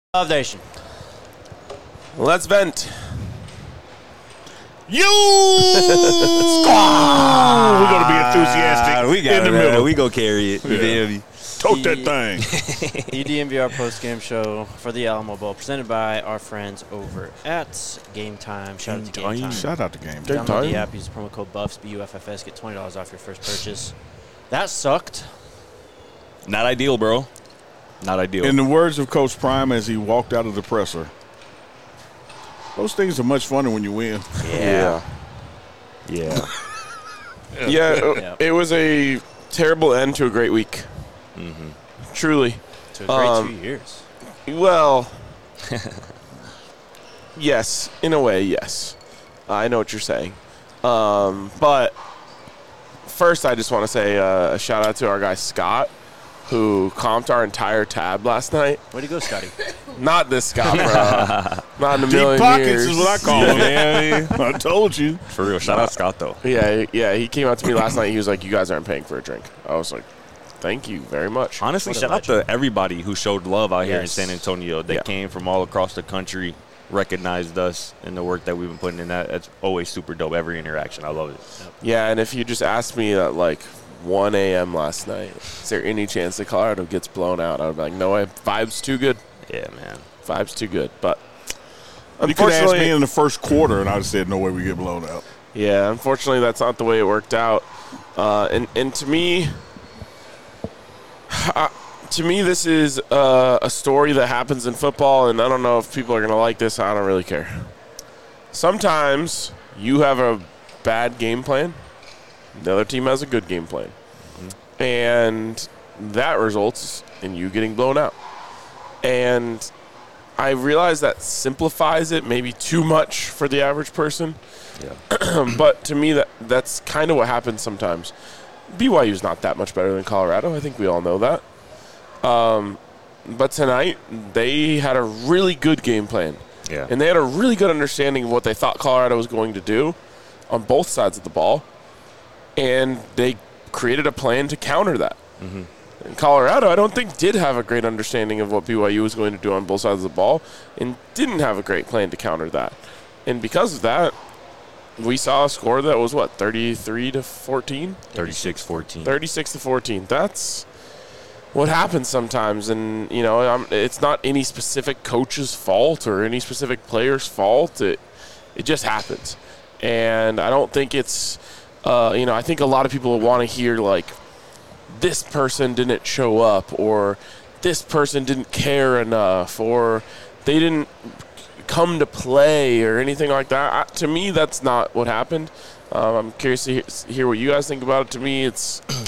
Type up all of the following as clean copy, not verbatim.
Love Nation. Let's vent. You squad. We're gonna be enthusiastic. We got in the it, middle. We go carry it. Yeah. Tote that thing. EDMVR post-game show for the Alamo Bowl, presented by our friends over at Game Time. Shout out to Game Time. Shout out to Game Download Time. the app, use the promo code BUFFS, BUFFS, get $20 off your first purchase. That sucked. Not ideal, bro. Not ideal. In the words of Coach Prime as he walked out of the presser, those things are much funner when you win. Yeah. Yeah. It was a terrible end to a great week. Mm-hmm. Truly. To a great 2 years. Well, yes. In a way, yes. I know what you're saying. But first, I just want to say a shout-out to our guy Scott, who comped our entire tab last night. Way to go, Scotty. Not this Scott, bro. Not in a Deep million pockets years. is what I call him. I told you. For real. Shout out Scott, though. Yeah, he came out to me last night. He was like, you guys aren't paying for a drink. I was like, thank you very much. Honestly, What a shout out to everybody who showed love out here in San Antonio. They came from all across the country, recognized us and the work that we've been putting in. That's always super dope. Every interaction. I love it. Yeah, and if you just asked me at like 1 a.m. last night, is there any chance that Colorado gets blown out? I would be like, no way. Vibe's too good. Yeah, man. Vibe's too good. But You could ask unfortunately, me in the first quarter, and I'd have said, no way we get blown out. yeah, unfortunately, that's not the way it worked out. And to me, this is a story that happens in football, and I don't know if people are going to like this. I don't really care. Sometimes you have a bad game plan. The other team has a good game plan. Mm-hmm. And that results in you getting blown out. And I realize that simplifies it maybe too much for the average person. Yeah. But to me, that's kind of what happens sometimes. BYU's not that much better than Colorado. I think we all know that. But tonight, they had a really good game plan. Yeah. And they had a really good understanding of what they thought Colorado was going to do on both sides of the ball. And they created a plan to counter that. Mm-hmm. And Colorado, I don't think, did have a great understanding of what BYU was going to do on both sides of the ball and didn't have a great plan to counter that. And because of that, we saw a score that was, 33-14? 36-14. 36-14. That's what happens sometimes. And, it's not any specific coach's fault or any specific player's fault. It just happens. And I don't think it's, I think a lot of people want to hear, like, this person didn't show up or this person didn't care enough or they didn't come to play or anything like that. To me, that's not what happened. I'm curious to hear what you guys think about it. To me, it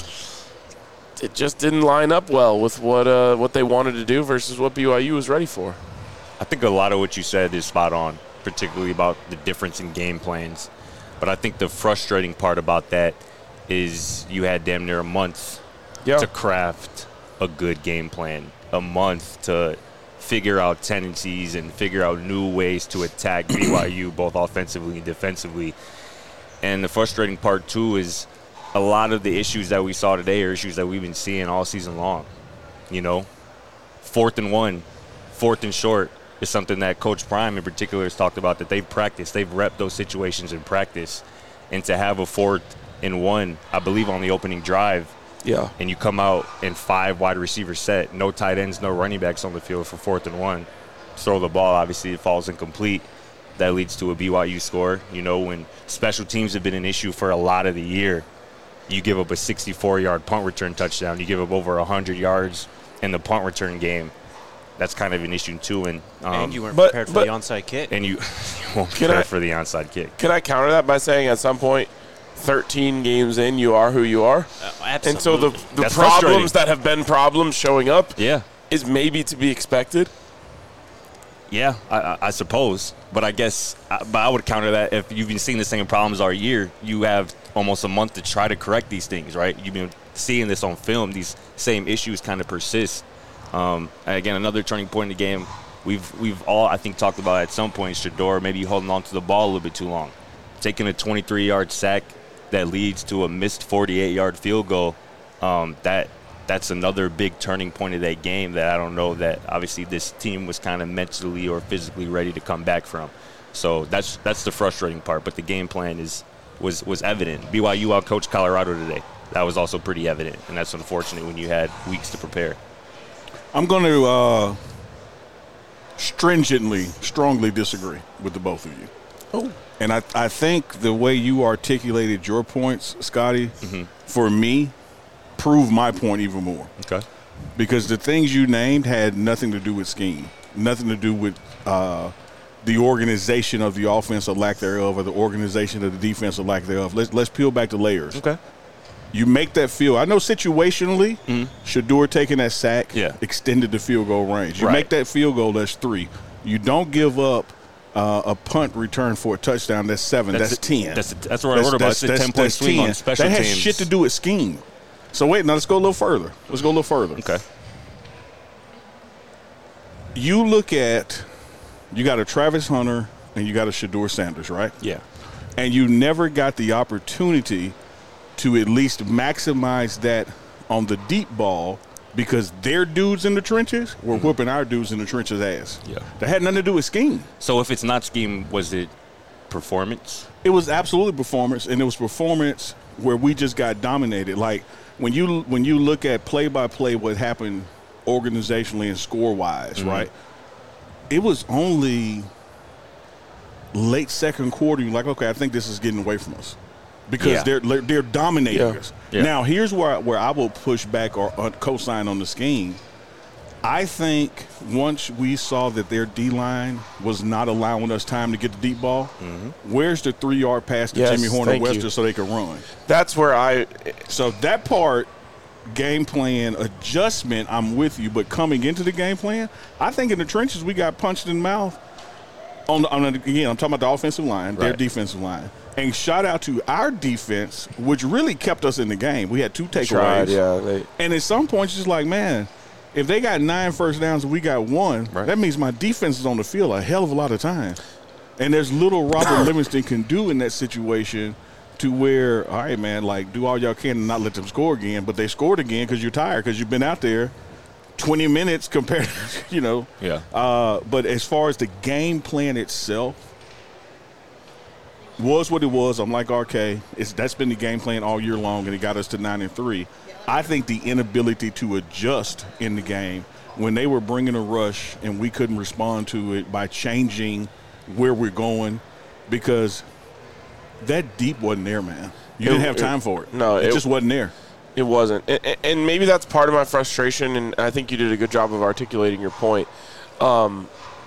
just didn't line up well with what they wanted to do versus what BYU was ready for. I think a lot of what you said is spot on, particularly about the difference in game plans. But I think the frustrating part about that is you had damn near a month to craft a good game plan, a month to figure out tendencies and figure out new ways to attack BYU both offensively and defensively. And the frustrating part, too, is a lot of the issues that we saw today are issues that we've been seeing all season long. 4th and 1, 4th and short is something that Coach Prime in particular has talked about, that they've practiced. They've repped those situations in practice. And to have a 4th and 1, I believe, on the opening drive, and you come out in 5 wide receiver set, no tight ends, no running backs on the field for 4th and 1. Throw the ball, obviously it falls incomplete. That leads to a BYU score. When special teams have been an issue for a lot of the year, you give up a 64-yard punt return touchdown. You give up over 100 yards in the punt return game. That's kind of an issue, too. And you weren't prepared for the onside kick. And you weren't prepared for the onside kick. Can I counter that by saying at some point, 13 games in, you are who you are? Absolutely. And so the problems that have been problems showing up is maybe to be expected? Yeah, I suppose. But I guess I would counter that if you've been seeing the same problems all year, you have almost a month to try to correct these things, right? You've been seeing this on film. These same issues kind of persist. Again, another turning point in the game. We've all, I think, talked about at some point, Shedeur maybe holding on to the ball a little bit too long. Taking a 23-yard sack that leads to a missed 48-yard field goal, that that's another big turning point of that game that I don't know that obviously this team was kind of mentally or physically ready to come back from. So that's the frustrating part. But the game plan was evident. BYU outcoached Colorado today. That was also pretty evident, and that's unfortunate when you had weeks to prepare. I'm going to strongly disagree with the both of you. Oh. And I think the way you articulated your points, Scotty, for me, proved my point even more. Okay. Because the things you named had nothing to do with scheme, nothing to do with the organization of the offense or lack thereof, or the organization of the defense or lack thereof. Let's peel back the layers. Okay. You make that field. I know situationally, Shedeur taking that sack extended the field goal range. You make that field goal, that's 3. You don't give up a punt return for a touchdown, that's 7. That's 10. That's what I wrote about. It's a 10-point swing on special teams. That has shit to do with scheme. So wait, now let's go a little further. Okay. You look at, you got a Travis Hunter and you got a Shedeur Sanders, right? Yeah. And you never got the opportunity to at least maximize that on the deep ball because their dudes in the trenches were whooping our dudes in the trenches' ass. Yeah. That had nothing to do with scheme. So if it's not scheme, was it performance? It was absolutely performance, and it was performance where we just got dominated. Like when you look at play-by-play what happened organizationally and score-wise, right? It was only late second quarter. You're like, okay, I think this is getting away from us. Because they're dominating us. Yeah. Now, here's where I will push back or co-sign on the scheme. I think once we saw that their D-line was not allowing us time to get the deep ball, where's the 3-yard pass to Jimmy Horner-Webster so they could run? That's where So that part, game plan adjustment, I'm with you. But coming into the game plan, I think in the trenches we got punched in the mouth. Again, I'm talking about the offensive line, their defensive line. And shout out to our defense, which really kept us in the game. We had 2 takeaways. And at some points, it's like, man, if they got 9 first downs and we got 1, that means my defense is on the field a hell of a lot of time. And there's little Robert Livingston can do in that situation to where, all right, man, like do all y'all can and not let them score again. But they scored again because you're tired because you've been out there 20 minutes compared to, but as far as the game plan itself, was what it was. I'm like, RK, that's been the game plan all year long, and it got us to 9-3. I think the inability to adjust in the game when they were bringing a rush and we couldn't respond to it by changing where we're going because that deep wasn't there, man. You didn't have time for it. No, it just wasn't there. It wasn't. And maybe that's part of my frustration, and I think you did a good job of articulating your point. And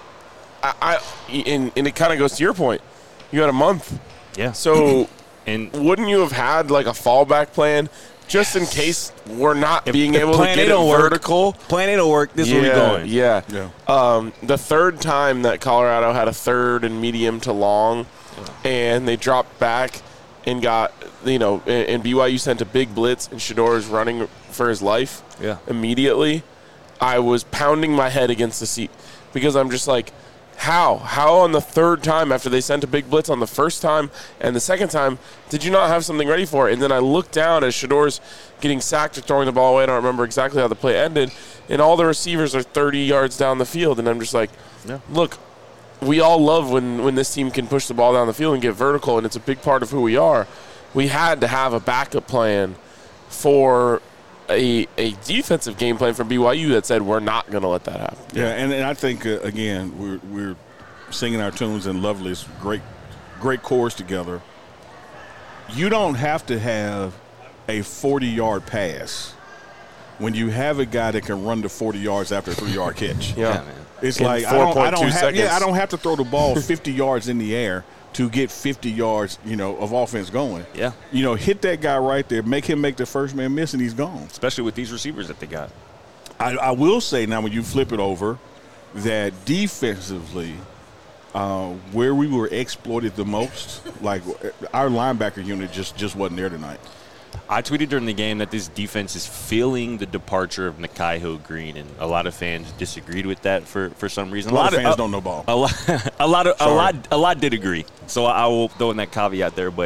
it kind of goes to your point. You had a month. Yeah. So wouldn't you have had like a fallback plan just in case we're not being able to get it vertical? Plan A don't work. This is where we're going. Yeah. The third time that Colorado had a third and medium to long, and they dropped back and got, and BYU sent a big blitz, and Shedeur is running for his life immediately, I was pounding my head against the seat because I'm just like, how on the third time after they sent a big blitz on the first time and the second time did you not have something ready for it? And then I looked down as Shedeur's getting sacked or throwing the ball away. I don't remember exactly how the play ended, and all the receivers are 30 yards down the field, and I'm just like, look, we all love when this team can push the ball down the field and get vertical, and it's a big part of who we are. We had to have a backup plan for a defensive game plan from BYU that said we're not going to let that happen. Yeah, and I think, again, we're singing our tunes in Lovely's great chorus together. You don't have to have a 40-yard pass when you have a guy that can run to 40 yards after a 3-yard catch. Man. It's in like I don't have to throw the ball 50 yards in the air to get 50 yards, of offense going. Yeah. Hit that guy right there, make him make the first man miss, and he's gone. Especially with these receivers that they got. I will say now when you flip it over that defensively, where we were exploited the most, like our linebacker unit just wasn't there tonight. I tweeted during the game that this defense is feeling the departure of Nakai Hill-Green, and a lot of fans disagreed with that for some reason. A lot of fans don't know ball. A lot did agree. So I will throw in that caveat there, but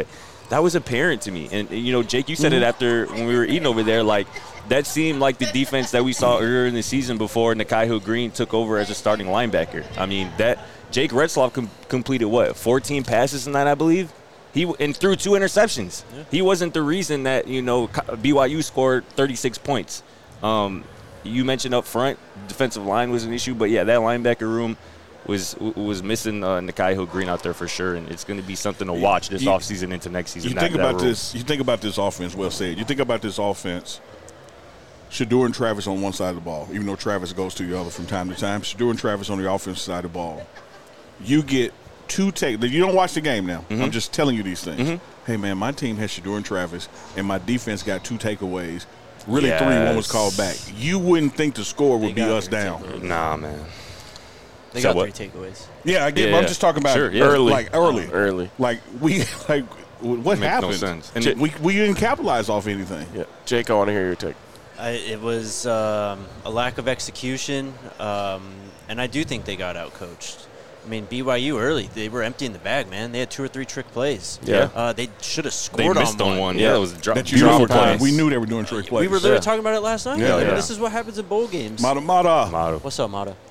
that was apparent to me. And you know, Jake, you said it after when we were eating over there. Like that seemed like the defense that we saw earlier in the season before Nikhai Green took over as a starting linebacker. I mean, that Jake Retzloff completed what 14 passes in that, I believe. And threw 2 interceptions. Yeah. He wasn't the reason that, you know, BYU scored 36 points. You mentioned up front, defensive line was an issue, but yeah, that linebacker room was missing Nikhai Green out there for sure, and it's going to be something to watch this offseason into next season. You think about this offense. Well said. You think about this offense. Shedeur and Travis on one side of the ball, even though Travis goes to the other from time to time. Shedeur and Travis on the offensive side of the ball. You get 2 take. You don't watch the game now. Mm-hmm. I'm just telling you these things. Mm-hmm. Hey, man, my team has Shedeur and Travis, and my defense got 2 takeaways. Really, 3. One was called back. You wouldn't think the score would be us down. Nah, man. They got 3 takeaways. Yeah, I get. But I'm just talking about early. Like what happened? No sense. And we didn't capitalize off anything. Yeah, Jake, I want to hear your take. It was a lack of execution, and I do think they got outcoached. I mean, BYU early, they were emptying the bag, man. They had 2 or 3 trick plays. Yeah. They should have scored they missed on one. Yeah, it was a beautiful play. We knew they were doing trick plays. We were literally talking about it last night. Yeah, This is what happens in bowl games. Mata. What's up, Mata?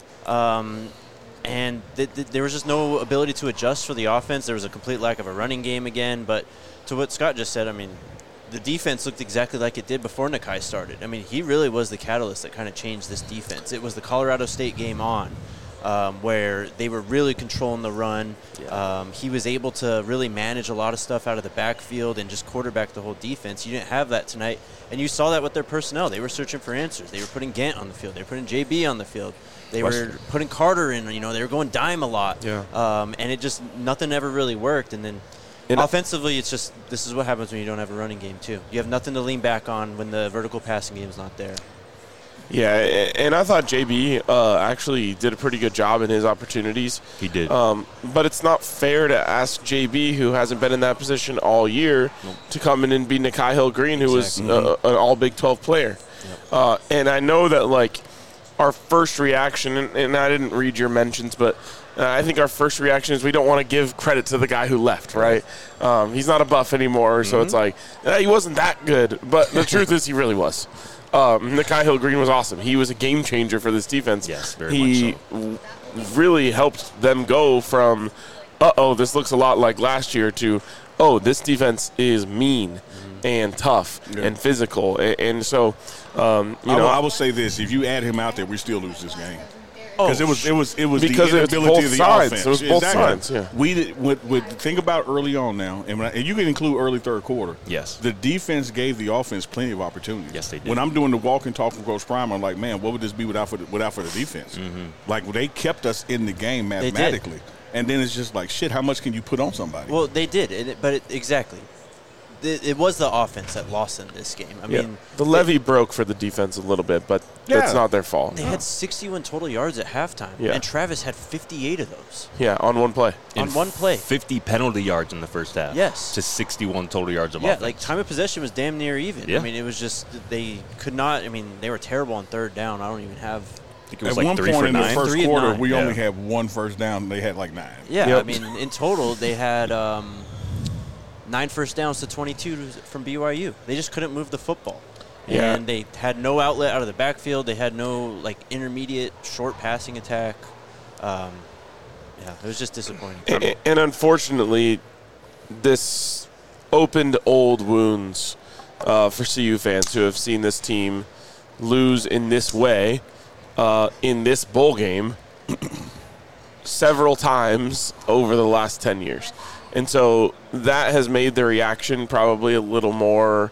And there was just no ability to adjust for the offense. There was a complete lack of a running game again. But to what Scott just said, I mean, the defense looked exactly like it did before Nikhai started. I mean, he really was the catalyst that kind of changed this defense. It was the Colorado State game on. Where they were really controlling the run. Yeah. He was able to really manage a lot of stuff out of the backfield and just quarterback the whole defense. You didn't have that tonight, and you saw that with their personnel. They were searching for answers. They were putting Gant on the field. They were putting JB on the field. They were putting Carter in. You know, they were going dime a lot. Yeah. And it just nothing ever really worked. And then offensively, it's just this is what happens when you don't have a running game too. You have nothing to lean back on when the vertical passing game is not there. Yeah, and I thought JB actually did a pretty good job in his opportunities. He did. But it's not fair to ask JB, who hasn't been in that position all year, to come in and be Nikhai Green, who was an all Big 12 player. Yep. And I know that, like, our first reaction, and I didn't read your mentions, but I think our first reaction is we don't want to give credit to the guy who left, right? He's not a Buff anymore, so it's like, he wasn't that good. But the truth is he really was. Nikhai Green was awesome. He was a game changer for this defense. Yes, very much so. Really helped them go from, this looks a lot like last year, to, this defense is mean and tough and physical. And so, I will say this. If you add him out there, we still lose this game. Because it was because the inability of the offense. It was both sides. Yeah. We would think about early on now, and you can include early third quarter. Yes. The defense gave the offense plenty of opportunities. Yes, they did. When I'm doing the walk and talk from Coach Prime, I'm like, man, what would this be without for the defense? Mm-hmm. Like, they kept us in the game mathematically, and then it's just like, shit, how much can you put on somebody? Well, they did, exactly. It was the offense that lost in this game. I mean, the levee broke for the defense a little bit, but that's not their fault. They had 61 total yards at halftime, and Travis had 58 of those. Yeah, on one play. On one play. 50 penalty yards in the first half. Yes. To 61 total yards of offense. Yeah, like time of possession was damn near even. Yeah. I mean, it was just they could not. I mean, they were terrible on third down. I don't even have. I think it was at like one 3 point for in 9. the first quarter, we only had 1 first down. They had like 9. Yeah, I mean, in total, they had 9 first downs to 22 from BYU. They just couldn't move the football. Yeah. And they had no outlet out of the backfield. They had no, like, intermediate short passing attack. It was just disappointing. And unfortunately, this opened old wounds for CU fans who have seen this team lose in this way in this bowl game several times over the last 10 years. And so that has made the reaction probably a little more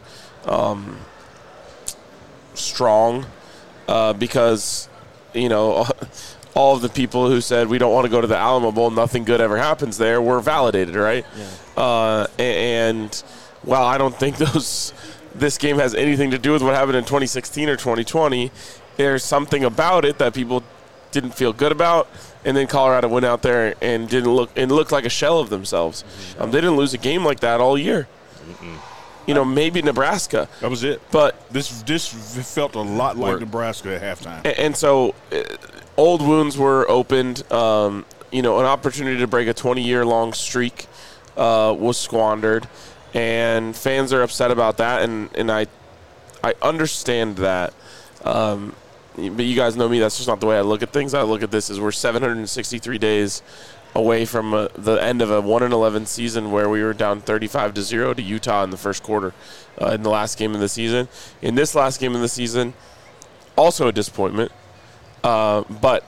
strong because, all of the people who said we don't want to go to the Alamo Bowl, nothing good ever happens there, were validated, right? Yeah. And while I don't think this game has anything to do with what happened in 2016 or 2020, there's something about it that people didn't feel good about. And then Colorado went out there and looked like a shell of themselves. They didn't lose a game like that all year. Maybe Nebraska. That was it. But this felt a lot like Nebraska at halftime. And so old wounds were opened. An opportunity to break a 20-year-long streak was squandered. and fans are upset about that, and I understand that. But you guys know me, that's just not the way I look at things. I look at this as we're 763 days away from the end of a 1-11 season where we were down 35-0 to Utah in the first quarter in the last game of the season. In this last game of the season, also a disappointment, but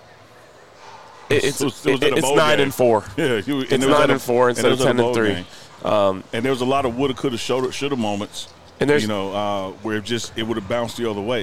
it's 9-4. Yeah, it's 9-4 instead of 10-3. And there was a lot of woulda, coulda, shoulda moments. And there's, where it would have bounced the other way.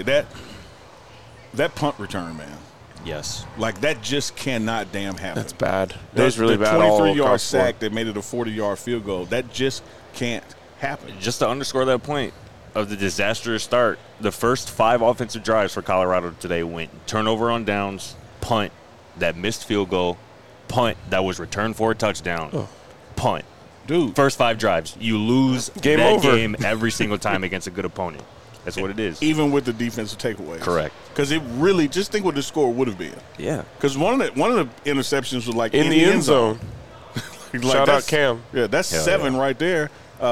That punt return, man. Yes. Like, that just cannot damn happen. That's bad. That was really bad. 23-yard sack that made it a 40-yard field goal. That just can't happen. Just to underscore that point of the disastrous start, the first 5 offensive drives for Colorado today went turnover on downs, punt, that missed field goal, punt that was returned for a touchdown, punt. Dude. First 5 drives. You lose game that over. game every single time against a good opponent. That's what it is. Even with the defensive takeaways. Correct. Because it really, just think what the score would have been. Yeah. Because one of the interceptions was like in the end zone. Like, Shout out Cam. Yeah, that's Hell 7 yeah. right there.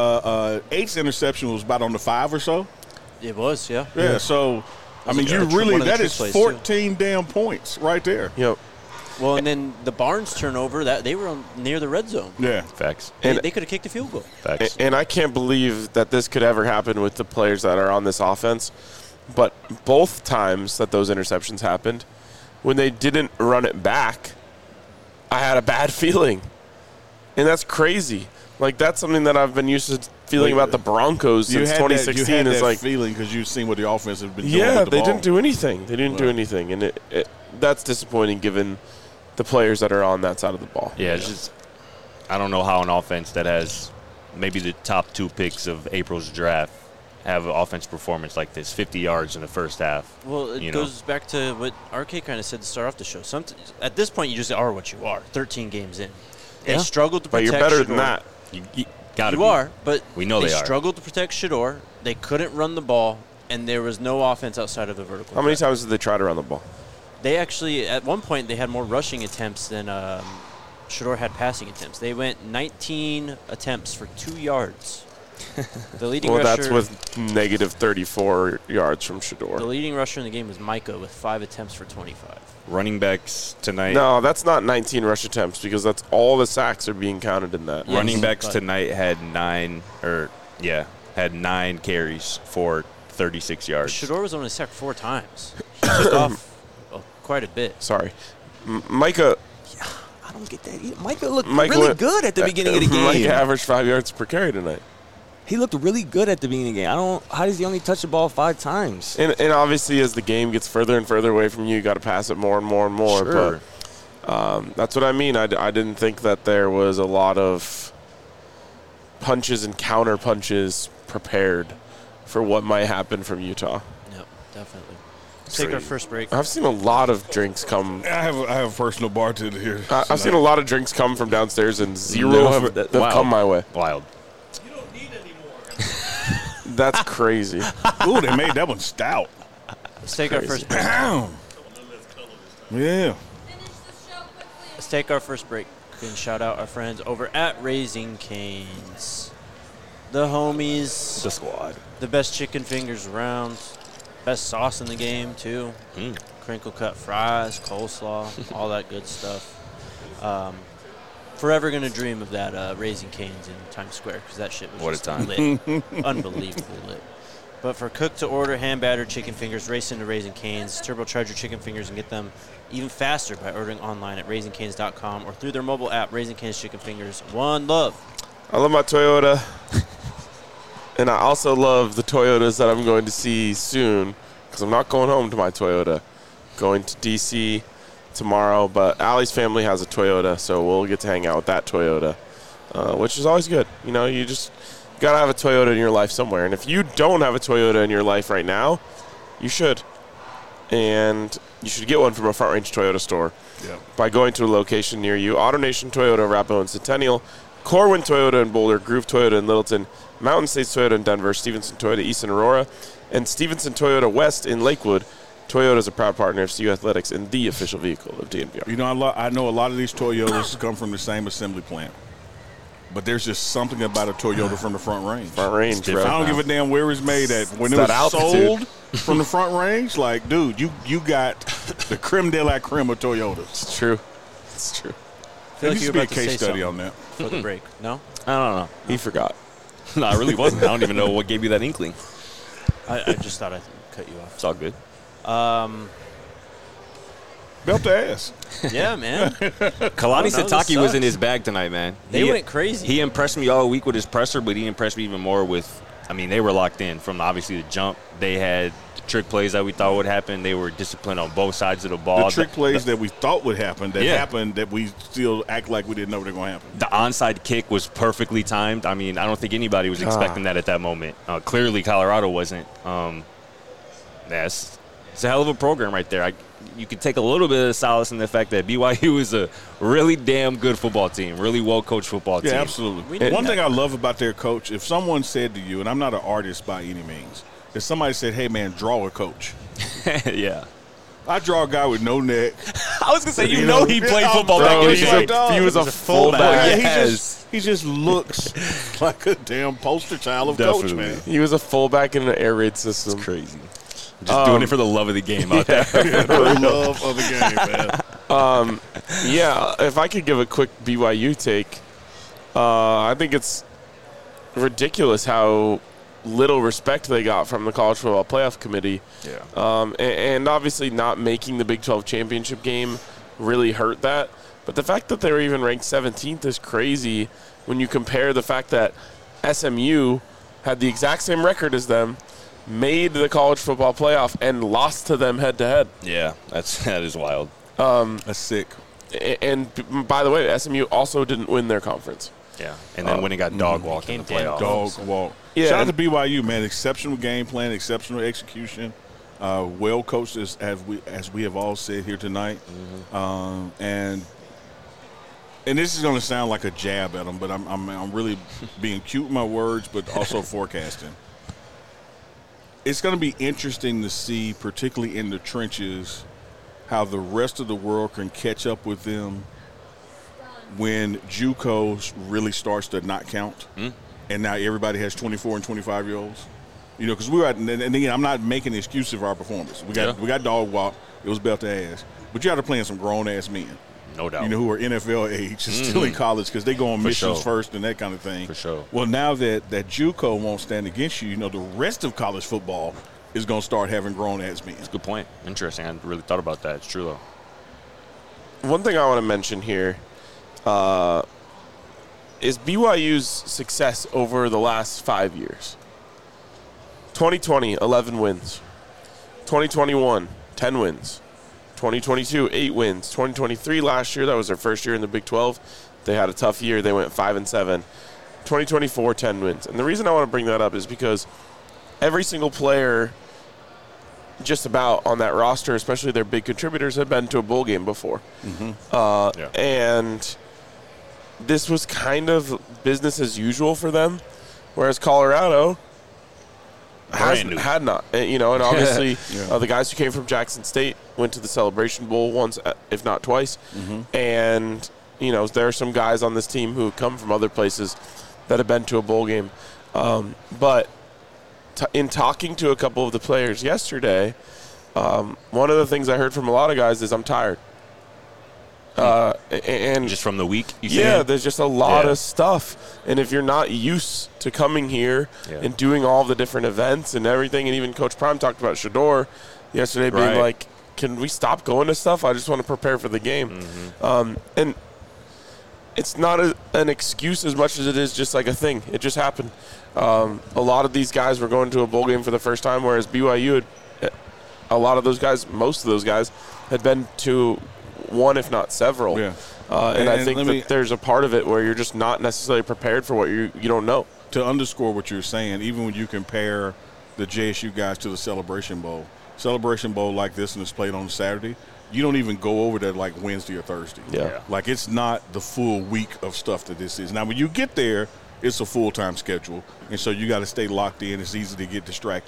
8's interception was about on the 5 or so. It was, yeah. Yeah, so, I mean, one of the that trick is plays, 14 damn points right there. Yep. Well, and then the Barnes turnover, that they were near the red zone. Yeah. Facts. They could have kicked a field goal. Facts. And I can't believe that this could ever happen with the players that are on this offense. But both times that those interceptions happened, when they didn't run it back, I had a bad feeling. And that's crazy. Like, that's something that I've been used to feeling about the Broncos since 2016. You had is that like feeling because you've seen what the offense has been doing yeah, with the they ball. didn't do anything. They didn't do anything. And that's disappointing given the players that are on that side of the ball. Yeah, it's just I don't know how an offense that has maybe the top 2 picks of April's draft have an offense performance like this, 50 yards in the first half. Well, it goes back to what RK kind of said to start off the show. At this point, you just are what you are, 13 games in. They struggled to But protect you're better Shedeur. than that. You gotta You be. are, but We know they are. struggled to protect Shedeur. They couldn't run the ball, and there was no offense outside of the vertical. How many threat. times did they try to run the ball? They actually, at one point, they had more rushing attempts than Shedeur had passing attempts. They went 19 attempts for 2 yards. The leading Well, rusher, that's with negative 34 yards from the Shedeur. leading rusher in the game was Micah with 5 attempts for 25. Running backs tonight. No, that's not 19 rush attempts because that's all the sacks are being counted in that. Yeah. Running backs but- tonight had 9 carries for 36 yards. Shedeur was only sacked 4 times. He took off quite a bit. Sorry. Micah I don't get that. Micah looked Micah really went- good at the beginning of the game. Micah averaged 5 yards per carry tonight. He looked really good at the beginning of the game. How does he only touch the ball 5 times? And obviously, as the game gets further and further away from you got to pass it more and more and more. Sure. But that's what I mean. I didn't think that there was a lot of punches and counter punches prepared for what might happen from Utah. Yep, definitely. Let's take our first break. I've seen a lot of drinks come. I have a personal bartender here. I've seen a lot of drinks come from downstairs, and zero have come my way. Wild. That's crazy. Ooh, they made that one stout. Let's take our first break. Damn. Yeah. Let's take our first break and shout out our friends over at Raising Cane's. The homies, The squad. the best chicken fingers around, best sauce in the game too. Mm. Crinkle cut fries, coleslaw, all that good stuff. Forever gonna dream of that Raising Cane's in Times Square because that shit was What a just time. lit, unbelievably lit. But for cooked to order, hand battered chicken fingers, race into Raising Cane's, turbocharge your chicken fingers and get them even faster by ordering online at raisingcanes.com or through their mobile app, Raising Cane's Chicken Fingers. One love. I love my Toyota, and I also love the Toyotas that I'm going to see soon because I'm not going home to my Toyota. Going to D.C. tomorrow, but Allie's family has a Toyota, so we'll get to hang out with that Toyota, which is always good. You know, you just got to have a Toyota in your life somewhere, and if you don't have a Toyota in your life right now, you should. And you should get one from a Front Range Toyota store by going to a location near you. AutoNation Toyota, Arapahoe and Centennial, Corwin Toyota in Boulder, Groove Toyota in Littleton, Mountain States Toyota in Denver, Stevenson Toyota East in Aurora, and Stevenson Toyota West in Lakewood. Toyota is a proud partner of CU Athletics and the official vehicle of DNVR. You know, I know a lot of these Toyotas come from the same assembly plant. But there's just something about a Toyota from the front range. Front range, I bro. don't give a damn where it's made at. When it that was altitude. sold from the front range, like, dude, you got the creme de la creme of Toyotas. It's true. It's true. I feel There like needs you to were be a about to say case study something on that. for the break. No? I don't know. He forgot. No, I really wasn't. I don't even know what gave you that inkling. I just thought I'd cut you off. It's all good. Belt to ass. Yeah, man. Kalani Oh, no, this Sitake was sucks. in his bag tonight, man. They went crazy. He impressed me all week with his presser, but he impressed me even more with, I mean, they were locked in from obviously the jump. They had the trick plays that we thought would happen. They were disciplined on both sides of the ball. The trick plays that we thought would happen, that Yeah. happened, that we still act like we didn't know they were going to happen. The onside kick was perfectly timed. I mean, I don't think anybody was expecting that at that moment. Clearly, Colorado wasn't. It's a hell of a program right there. You could take a little bit of solace in the fact that BYU is a really damn good football team, really well-coached football team. Yeah, absolutely. We need One that. thing I love about their coach, if someone said to you, and I'm not an artist by any means, if somebody said, hey, man, draw a coach. Yeah. I draw a guy with no neck. I was going to say, you You know know, he played yeah, football bro, back in the he's day. a- He was a fullback. Yeah, Yes. he just looks like a damn poster child of Definitely. coach, man. He was a fullback in an air raid system. Crazy. Just doing it for the love of the game out there. For the love of the game, man. Yeah, if I could give a quick BYU take, I think it's ridiculous how little respect they got from the College Football Playoff Committee. Yeah. And obviously not making the Big 12 championship game really hurt that. But the fact that they were even ranked 17th is crazy when you compare the fact that SMU had the exact same record as them, made the College Football Playoff, and lost to them head-to-head. Yeah, that is wild. That's sick. And by the way, SMU also didn't win their conference. Yeah. And then when it got dog walked in the Came down. playoffs. Dog walk. Yeah, Shout out and- to BYU, man. Exceptional game plan, exceptional execution. Well coached, as we have all said here tonight. And this is going to sound like a jab at them, but I'm really being cute with my words, but also forecasting. It's going to be interesting to see, particularly in the trenches, how the rest of the world can catch up with them when JUCO really starts to not count, and now everybody has 24 and 25-year-olds. You know, because we were at, and again, I'm not making an excuse of our performance. We got dog walk. It was belt to ass, but you got to play some grown ass men. No doubt. You know, who are NFL age and still in college because they go on missions sure. first and that kind of thing. For sure. Well, now that JUCO won't stand against you, you know, the rest of college football is going to start having grown ass men. Good point. Interesting. I hadn't really thought about that. It's true, though. One thing I want to mention here is BYU's success over the last 5 years. 2020, 11 wins. 2021, 10 wins. 2022, 8 wins. 2023 last year, that was their first year in the Big 12. They had a tough year. They went 5-7. 2024, 10 wins. And the reason I want to bring that up is because every single player just about on that roster, especially their big contributors, had been to a bowl game before. And this was kind of business as usual for them, whereas Colorado had not. And, you know, and obviously the guys who came from Jackson State went to the Celebration Bowl once, if not twice. And, you know, there are some guys on this team who come from other places that have been to a bowl game. But in talking to a couple of the players yesterday, one of the things I heard from a lot of guys is I'm tired. And Just from the week, you yeah, saying? there's just a lot Yeah. of stuff. And if you're not used to coming here and doing all the different events and everything, and even Coach Prime talked about Shador yesterday being Right. like, can we stop going to stuff? I just want to prepare for the game. And it's not an excuse as much as it is just like a thing. It just happened. A lot of these guys were going to a bowl game for the first time, whereas BYU a lot of those guys, most of those guys, had been to one, if not several. Yeah. And I think let that there's a part of it where you're just not necessarily prepared for what you don't know. To underscore what you're saying, even when you compare the JSU guys to the Celebration Bowl like this and it's played on Saturday, you don't even go over that like Wednesday or Thursday. Yeah. Like it's not the full week of stuff that this is. Now, when you get there, it's a full-time schedule, and so you got to stay locked in. It's easy to get distracted.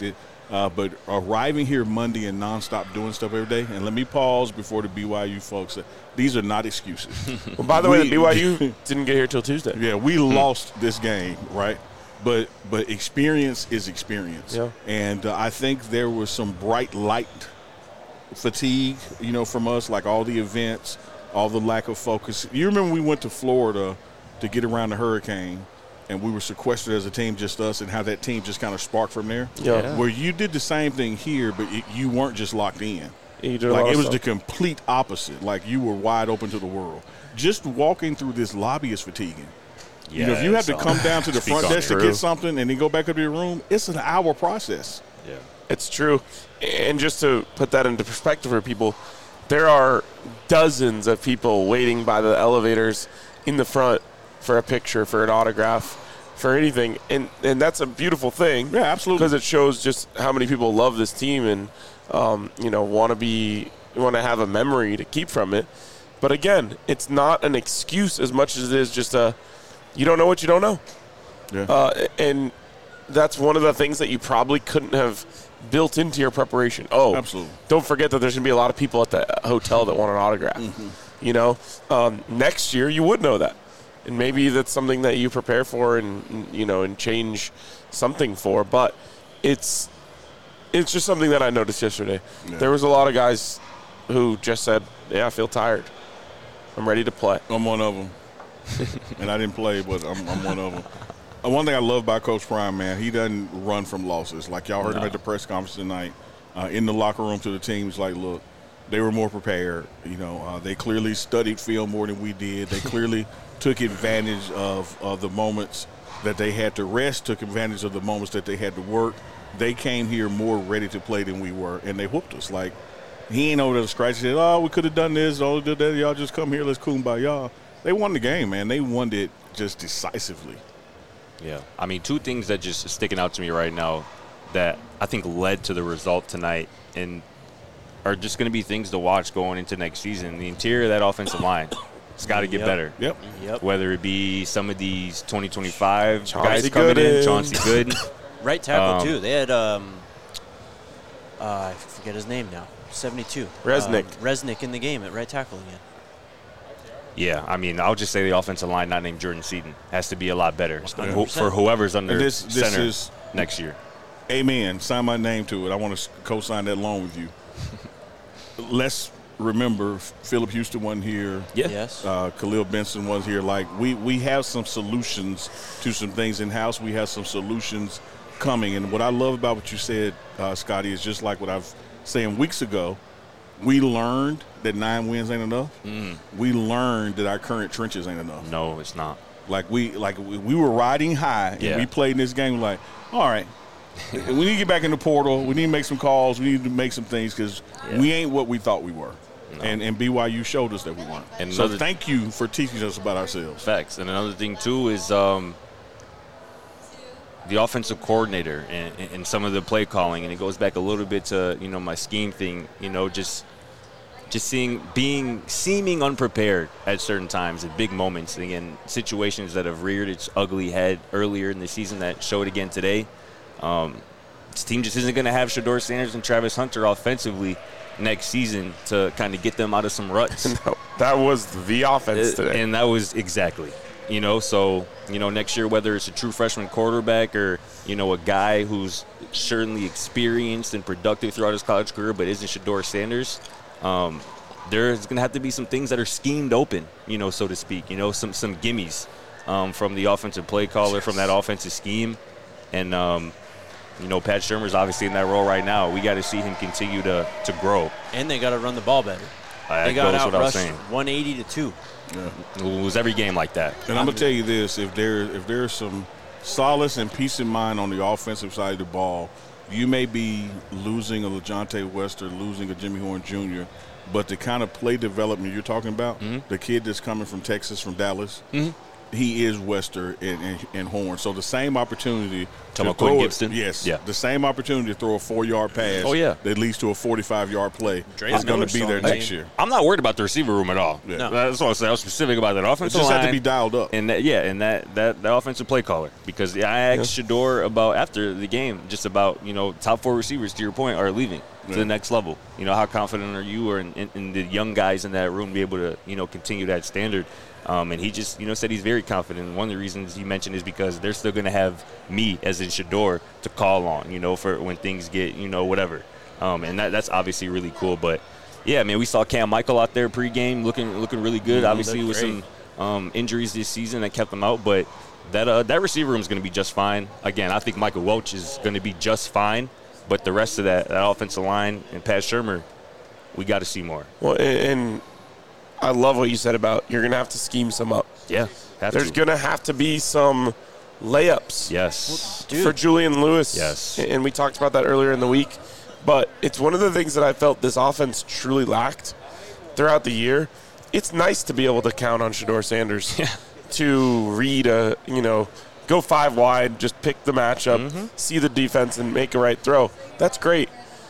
But arriving here Monday and nonstop doing stuff every day, and let me pause before the BYU folks. These are not excuses. Well, by the way, the BYU didn't get here till Tuesday. Yeah, we lost this game, right? But experience is experience. Yeah. And I think there was some bright light fatigue, from us, like all the events, all the lack of focus. You remember we went to Florida to get around the hurricane, and we were sequestered as a team, just us, and how that team just kind of sparked from there. Yeah. Where you did the same thing here, but you weren't just locked in. You did a Like lot it of was stuff. the complete opposite. Like you were wide open to the world. Just walking through this lobby is fatiguing. If you have to come down to the Speak front on desk it. to get something and then go back up to your room, it's an hour process. Yeah. It's true. And just to put that into perspective for people, there are dozens of people waiting by the elevators in the front for a picture, for an autograph, for anything. And that's a beautiful thing. Yeah, absolutely. Because it shows just how many people love this team and, want to have a memory to keep from it. But again, it's not an excuse as much as it is just you don't know what you don't know. Yeah. And that's one of the things that you probably couldn't have built into your preparation. Oh, Absolutely. Don't forget that there's going to be a lot of people at the hotel that want an autograph. Next year you would know that. And maybe that's something that you prepare for and change something for. But it's just something that I noticed yesterday. Yeah. There was a lot of guys who just said, yeah, I feel tired. I'm ready to play. I'm one of them. And I didn't play, but I'm one of them. One thing I love about Coach Prime, man, he doesn't run from losses. Like y'all heard him at the press conference tonight, in the locker room to the teams. Like, look, they were more prepared. They clearly studied film more than we did. They clearly took advantage of the moments that they had to rest, took advantage of the moments that they had to work. They came here more ready to play than we were, and they whooped us. Like, he ain't over there scratching. He said, oh, we could have done this, oh, did that. Y'all just come here, let's kumbaya. They won the game, man. They won it just decisively. Yeah. I mean, two things that just sticking out to me right now that I think led to the result tonight and are just going to be things to watch going into next season. The interior of that offensive line, it's got to get better. Yep. Whether it be some of these 2025 Chauncey guys coming Gooden. in, Chauncey Gooden. Right tackle, too. They had, I forget his name now, 72. Resnick. Resnick in the game at right tackle again. Yeah, I mean, I'll just say the offensive line not named Jordan Seaton has to be a lot better Yeah. for whoever's under And this center is- next year. Amen. Sign my name to it. I want to co-sign that loan with you. Let's remember Philip Houston wasn't here. Yeah. Yes. Khalil Benson was here. Like, we have some solutions to some things in-house. We have some solutions coming. And what I love about what you said, Scotty, is just like what I've saying weeks ago. We learned that 9 wins ain't enough. We learned that our current trenches ain't enough. No, it's not. Like we were riding high, and Yeah. we played in this game like, all right, we need to get back in the portal. We need to make some calls. We need to make some things because we ain't what we thought we were. No. And BYU showed us that we weren't. And so another- thank you for teaching us about ourselves. Facts. And another thing, too, is the offensive coordinator and some of the play calling. And it goes back a little bit to, my scheme thing, just seeming unprepared at certain times at big moments. Again, situations that have reared its ugly head earlier in the season that showed again today. This team just isn't going to have Shedeur Sanders and Travis Hunter offensively next season to kind of get them out of some ruts. No, that was the offense today. And that was exactly, so, next year, whether it's a true freshman quarterback or, a guy who's certainly experienced and productive throughout his college career but isn't Shedeur Sanders, there's going to have to be some things that are schemed open, so to speak, some gimmies from the offensive play caller, from that offensive scheme. And, Pat Shurmur's obviously in that role right now. We got to see him continue to grow. And they got to run the ball better. That They got goes without outrushed saying. 180 to 2. We'll lose every game like that. And I'm gonna tell you this: if there's some solace and peace of mind on the offensive side of the ball, you may be losing a LaJohntay Wester, losing a Jimmy Horn Jr., but the kind of play development you're talking about, the kid that's coming from Texas, from Dallas, he is Wester and Horn. So the same opportunity Talking to about Quinn throw Gibson? Yes. Yeah. The same opportunity to throw a 4-yard pass. Oh, yeah. That leads to a 45-yard play Dre's is going another to be there strong next team. year. I'm not worried about the receiver room at all. Yeah. No. That's what I said. I was specific about that It offensive just line. had to be dialed up. And that offensive play caller, because I asked Shador about after the game, just about top 4 receivers, to your point, are leaving to the next level. How confident are you or in the young guys in that room to be able to continue that standard? And he just said he's very confident. And one of the reasons he mentioned is because they're still going to have me, as in Shador, to call on, for when things get whatever. And that's obviously really cool. But yeah, man, we saw Cam Michael out there pregame looking really good. Obviously with some injuries this season that kept him out, but that receiver room is going to be just fine. Again, I think Michael Welch is going to be just fine, but the rest of that offensive line and Pat Shurmur, we got to see more. Well, and I love what you said about you're going to have to scheme some up. Yeah, There's going to have to be some layups yes, for Julian Lewis. Yes. And we talked about that earlier in the week. But it's one of the things that I felt this offense truly lacked throughout the year. It's nice to be able to count on Shador Sanders to read go 5 wide, just pick the matchup, see the defense, and make a right throw. That's great.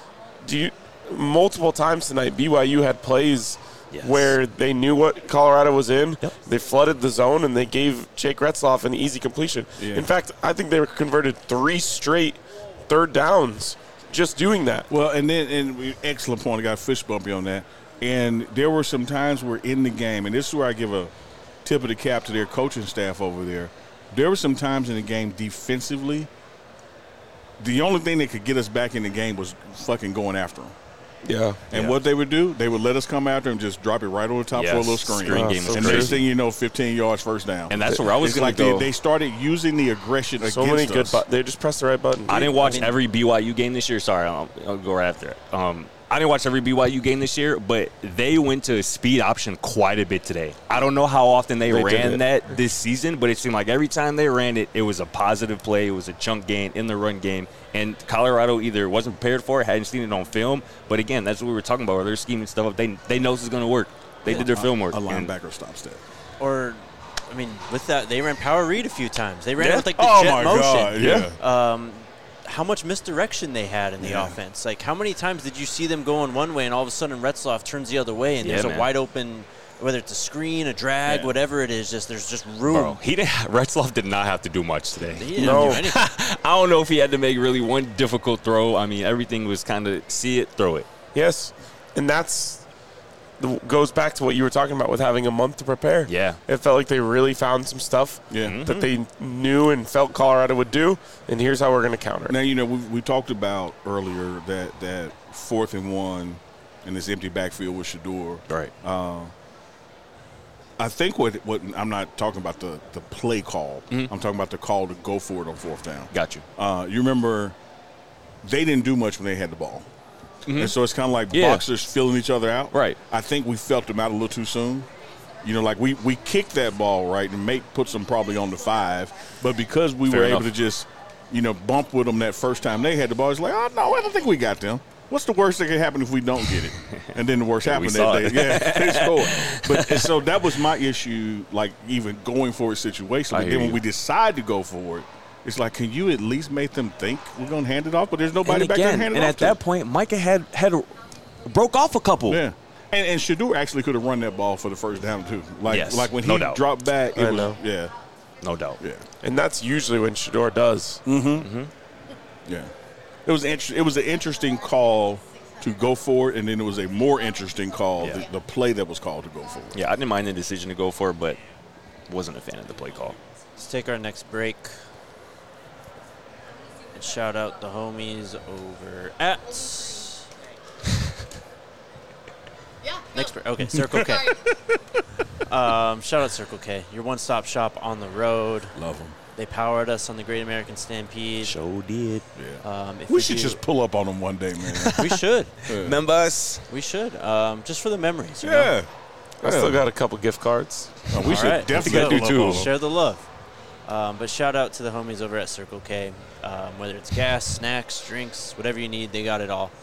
Multiple times tonight, BYU had plays where they knew what Colorado was in. Yep. They flooded the zone, and they gave Jake Retzloff an easy completion. Yeah. In fact, I think they were converted 3 straight third downs just doing that. Well, excellent point. I got a fish bumpy on that. And there were some times where in the game, and this is where I give a tip of the cap to their coaching staff over there. There were some times in the game defensively, the only thing that could get us back in the game was fucking going after them. Yeah. And what they would do, they would let us come after and just drop it right on the top for a little screen. Screen game was And next crazy. thing you know, 15 yards, first down. And that's where I was It's going like to go. they started using the aggression against So many good us. they just pressed the right button. I didn't watch every BYU game this year. Sorry, I'll go right after it. I didn't watch every BYU game this year, but they went to a speed option quite a bit today. I don't know how often they did ran it. that this season, but it seemed like every time they ran it, it was a positive play. It was a chunk gain in the run game. And Colorado either wasn't prepared for it, hadn't seen it on film. But, again, that's what we were talking about, where they're scheming stuff up. They know this is going to work. They did their film work. A And- linebacker stops that. Or, with that, they ran power read a few times. They ran Yeah. with, the Oh, jet my motion. God. Yeah. How much misdirection they had in the offense. Like, how many times did you see them going one way and all of a sudden Retzloff turns the other way and Yeah, there's man. a wide open, whether it's a screen, a drag, Yeah. whatever it is, there's just room. Bro, Retzloff did not have to do much today. He didn't No. do anything. I don't know if he had to make really one difficult throw. I mean, everything was kind of see it, throw it. Yes. And goes back to what you were talking about with having a month to prepare. Yeah. It felt like they really found some stuff Yeah. that they knew and felt Colorado would do, and here's how we're going to counter it. Now, we talked about earlier that 4th and 1 in this empty backfield with Shador. Right. I think what I'm not talking about the play call. I'm talking about the call to go for it on 4th down. Got you. You remember they didn't do much when they had the ball. And so it's kind of like Yeah. boxers filling each other out. Right. I think we felt them out a little too soon. Like we kicked that ball right and puts them probably on the 5. But because we Fair were enough. able to just, bump with them that first time they had the ball, it's like, oh, no, I don't think we got them. What's the worst that could happen if we don't get it? And then the worst happened saw that it. day. Yeah, they scored. But and so that was my issue, like even going for a situation. I But hear then when you. we decide to go for it, it's like, can you at least make them think we're going to hand it off? But there's nobody And back there to again, hand it and off at to. that point, Micah had broke off a couple. Yeah. And Shador actually could have run that ball for the first down, too. Yes, Like when no he doubt. dropped back, I know. Yeah. No doubt. Yeah. And that's usually when Shador does. Yeah. It was an interesting call to go for it, and then it was a more interesting call, Yeah. the play that was called to go for it. Yeah, I didn't mind the decision to go for it, but wasn't a fan of the play call. Let's take our next break. And shout out the homies over at next break. Okay, Circle K. Shout out Circle K, your one-stop shop on the road. Love them. They powered us on the Great American Stampede. Sure did. If We should just pull up on them one day, man. We should. Remember us? We should. Just for the memories. You know? I still got a couple gift cards. We All should right, definitely let's do go. too. Share the love. But shout out to the homies over at Circle K. Whether it's gas, snacks, drinks, whatever you need, they got it all.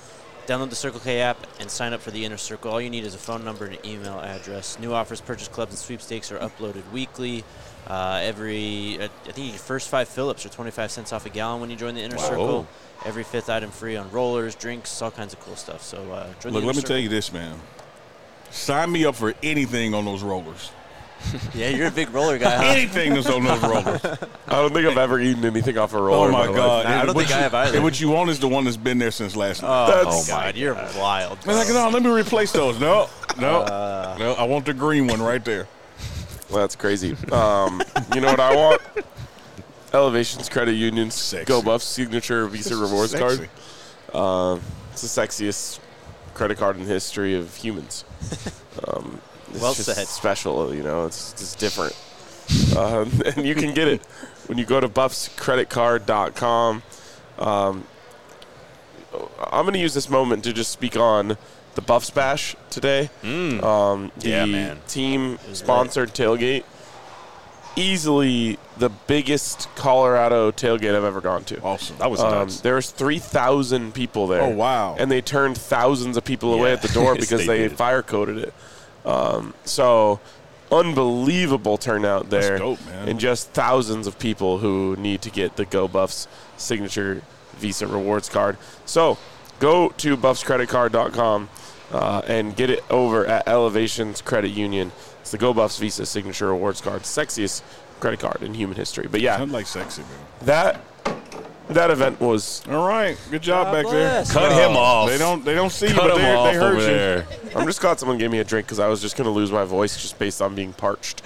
Download the Circle K app and sign up for the Inner Circle. All you need is a phone number and an email address. New offers, purchase clubs, and sweepstakes are uploaded weekly. I think your first 5 fill-ups are 25 cents off a gallon when you join the Inner Circle. Every 5th item free on rollers, drinks, all kinds of cool stuff. So join the Inner let me Circle. tell you this, man. Sign me up for anything on those rollers. Yeah, you're a big roller guy, huh? Anything that's on those rollers. I don't think I've ever eaten anything off a roller. Oh, my in God. I don't think I have either. And what you want is the one that's been there since last night. Oh, God, you're wild. I'm like, no, let me replace those. No, I want the green one right there. Well, that's crazy. You know what I want? Elevations Credit Union's Sexy. Go Buffs signature Visa rewards Sexy. card. It's the sexiest credit card in the history of humans. It's Well just said. special, you know. It's just different. And you can get it when you go to buffscreditcard.com. I'm going to use this moment to just speak on the Buffs Bash today. The team-sponsored tailgate. Easily the biggest Colorado tailgate I've ever gone to. Awesome. That was nuts. There was 3,000 people there. Oh, wow. And they turned thousands of people away at the door Yes, because they they did. fire-coded it. So unbelievable turnout there. That's dope, man. And just thousands of people who need to get the Go Buffs signature Visa rewards card. So go to buffscreditcard.com and get it over at Elevations Credit Union. It's the Go Buffs Visa signature rewards card. Sexiest credit card in human history. But yeah, Sounds like sexy, man. that event was. All right. Good job God back bless. there. Cut him off. They don't see you, Cut but him they off heard over you. there. I'm just glad someone gave me a drink because I was just going to lose my voice just based on being parched.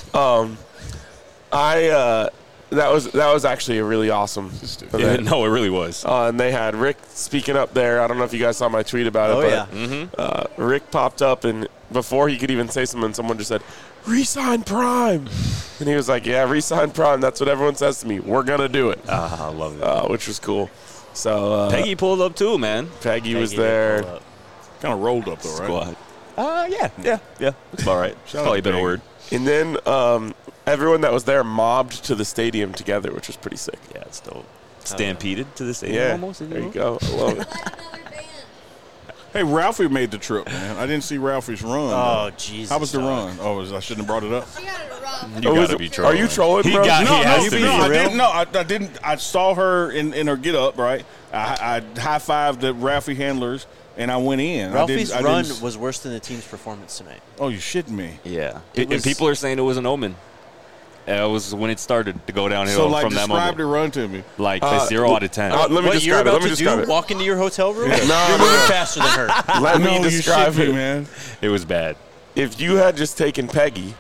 That was actually a really awesome Yeah, event. no, it really was. And they had Rick speaking up there. I don't know if you guys saw my tweet about Oh, it, yeah. but Rick popped up, and before he could even say something, someone just said, "Resign Prime," and he was like, "Yeah, resign Prime. That's what everyone says to me. We're gonna do it," I love that. which was cool. So Peggy pulled up too, man. Peggy was Peggy did there. pull up. Kind of rolled up, though, right? Squad. Yeah. It's about right. Shout out Probably to been a Peggy. word. And then everyone that was there mobbed to the stadium together, which was pretty sick. Yeah, it's dope. Stampeded to the stadium Yeah, almost. if there you will. go. I love it. Hey, Ralphie made the trip, man. I didn't see Ralphie's run. Oh, Jesus. How was the dog. run? Oh, I shouldn't have brought it up. She had it rough. You gotta be trolling. Are you trolling, He bro? got- No, he has to be. I Real? didn't. No, I didn't. I saw her in her get up, right? I high-fived the Ralphie handlers, and I went in. Ralphie's I run didn't- was worse than the team's performance tonight. Oh, you shitting me? Yeah. It was- And people are saying it was an omen. It was when it started to go downhill So, like, from that describe moment. the run to me. Like a 0 out of 10. Let me What you're describe it. about Let me to describe do? it. Walk into your hotel room? No, You're no, moving no. faster than her. Let No, me you describe shit me, it. man. It was bad. If you had just taken Peggy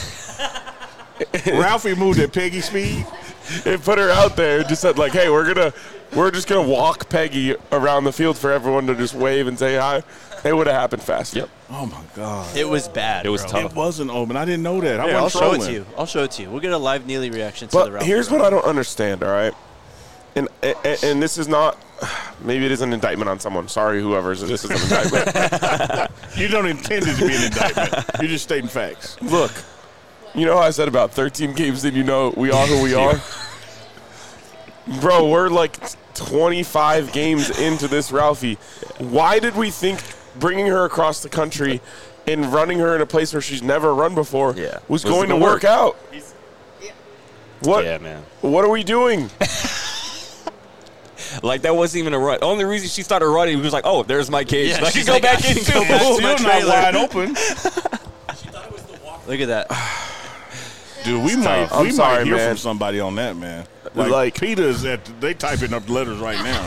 Ralphie moved at Peggy speed. and put her out there and just said like, "Hey, we're just gonna walk Peggy around the field for everyone to just wave and say hi," it would have happened fast. Yep. Oh my God! It was bad. It was bro. tough. It was an omen. I didn't know that. I Here, I'll wasn't show it trolling. to you. I'll show it to you. We'll get a live Neely reaction to the But Ralphie here's run. what I don't understand. All right, and this is not. Maybe it is an indictment on someone. Sorry, whoever's this is an indictment. You don't intend it to be an indictment. You're just stating facts. Look, you know how I said about 13 games in, you know, we are who we are? Bro, we're like 25 games into this Ralphie. Why did we think bringing her across the country and running her in a place where she's never run before was going to gonna work work. out? What? Yeah, man. What are we doing? Like, that wasn't even a run. The only reason she started running, he was like, oh, there's my cage. Yeah, I can she's go like, back I in and still go have boom. to- Still not wide open. Look at that. Dude, we might I'm sorry, might hear man. from somebody on that, man. Like- Peter's they typing up letters right now.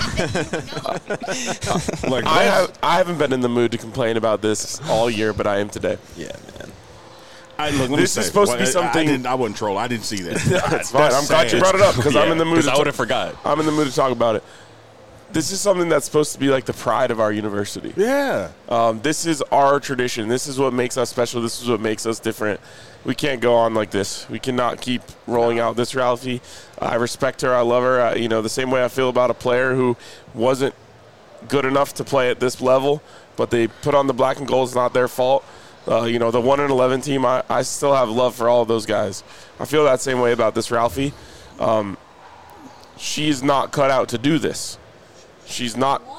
Like I haven't been in the mood to complain about this all year, but I am today. Yeah, man. look, let me This say, is supposed to be something- I wasn't trolling. I didn't see that. That's fine. I'm glad you sad. brought it up because I'm in the mood. Because to I would ta- have forgot. I'm in the mood to talk about it. This is something that's supposed to be like the pride of our university. Yeah. This is our tradition. This is what makes us special. This is what makes us different. We can't go on like this. We cannot keep rolling out this Ralphie. I respect her. I love her. The same way I feel about a player who wasn't good enough to play at this level, but they put on the black and gold. It's not their fault. The 1-11 team, I still have love for all of those guys. I feel that same way about this Ralphie. She's not cut out to do this. She's not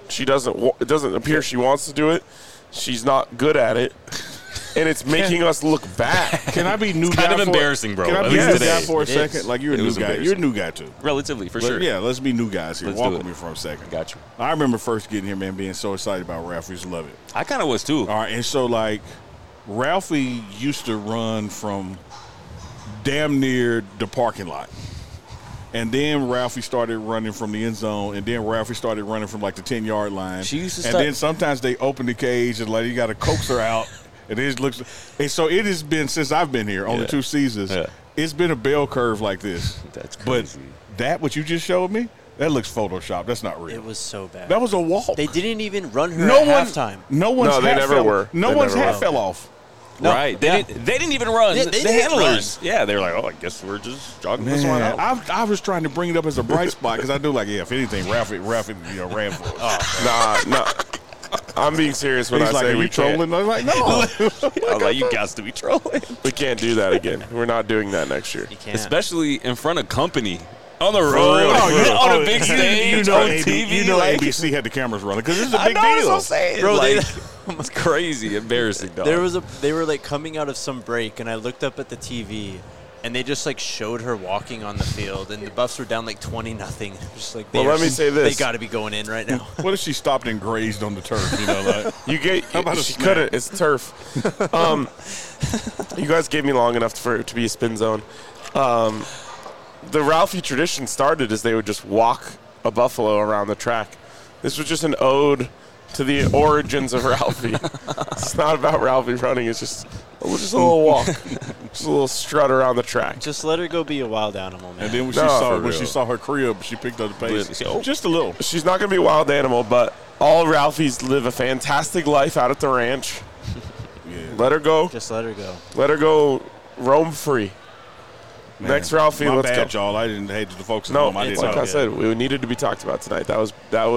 She doesn't. It doesn't appear she wants to do it. She's not good at it, and it's making us look bad. Can I be new guy? kind of embarrassing, bro. Can I At be least new today. guy for a It second? is. Like you're a It new was guy. embarrassing. You're a new guy too. Relatively, for sure. Yeah, let's be new guys here. Let's Walk do with it. me for a second. Got you. I remember first getting here, man, being so excited about Ralphie. Just love it. I kind of was too. All right, and so like Ralphie used to run from damn near the parking lot. And then Ralphie started running from the end zone, and then Ralphie started running from like the 10-yard line. She used to and start- then sometimes they open the cage and like you got to coax her out, and it looks. And so it has been since I've been here, only Yeah. 2 seasons. Yeah. It's been a bell curve like this. That's But crazy. that what you just showed me, that looks photoshopped. That's not real. It was so bad. That was a walk. They didn't even run her no at one, halftime. no one's No, they hat never fell, were. No They one's never hat were. fell off. No, Right. yeah. They didn't even run. They the didn't handlers. Yeah, they were like, oh, I guess we're just jogging this one Man, out. I was trying to bring it up as a bright spot because I do like, yeah, if anything, Ralphie, ran for us. Nah. I'm being serious when He's I like, say are we you trolling? I was like, no. I was like, you guys to be trolling. We can't do that again. We're not doing that next year. You can't. Especially in front of company. On the road. real. On a big stage. You know, on AB TV. you know like, ABC had the cameras running because this is a I big know, that's deal. what I'm saying. Bro, like, it's crazy. Embarrassing, dog. They were like coming out of some break, and I looked up at the TV, and they just like showed her walking on the field, and the Buffs were down like 20-0. Just like, Well, let me say this. They got to be going in right now. What if she stopped and grazed on the turf? You know, like You get. How about a She snack? couldn't. It's turf. You guys gave me long enough for it to be a spin zone. The Ralphie tradition started as they would just walk a buffalo around the track. This was just an ode to the origins of Ralphie. It's not about Ralphie running. It's just a little walk, just a little strut around the track. Just let her go be a wild animal, man. and then when No, she for saw her crib, she picked up the pace. Really? Oh. Just a little. She's not going to be a wild animal, but all Ralphies live a fantastic life out at the ranch. Yeah. Let her go. Just let her go. Let her go roam free. Man, Next Ralphie, my let's bad, go. y'all. I didn't hate the folks at No, home. I didn't like know. I said, we needed to be talked about tonight. That was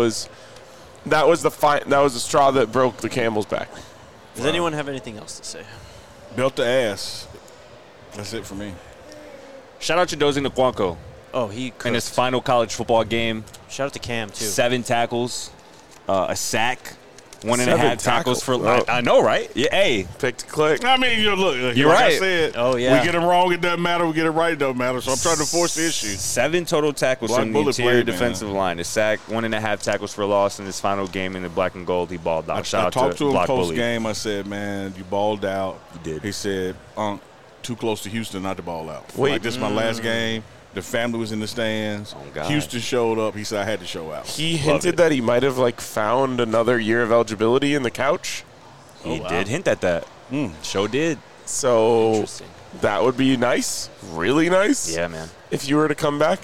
the straw that broke the camel's back. Does anyone have anything else to say? Belt the ass. That's it for me. Shout out to Dozie Nwankwo Oh, he in cooked. his final college football game. Shout out to Cam too. 7 tackles, a sack, 1.5 7 tackles for. tackles. I know, right? Yeah. Hey, Pick to click. I mean, you know, look, You're like I right. said, Oh, yeah. we get them wrong, it doesn't matter. We get it right, it don't matter. So I'm trying to force the issue. 7 total tackles Black from the bullet interior plate, man. defensive line. A sack, 1.5 tackles for loss in his final game in the black and gold. He balled out. I Shout out talked to him Block post Bully. game. I said, man, you balled out. You did. He said, too close to Houston not to ball out. Wait. Like, this is my last game. The family was in the stands. Oh, God. Houston showed up. He said, I had to show out. He Love hinted it. that he might have found another year of eligibility in the couch. He wow. did hint at that. Show did. So Interesting. that would be nice, really nice. Yeah, man. If you were to come back,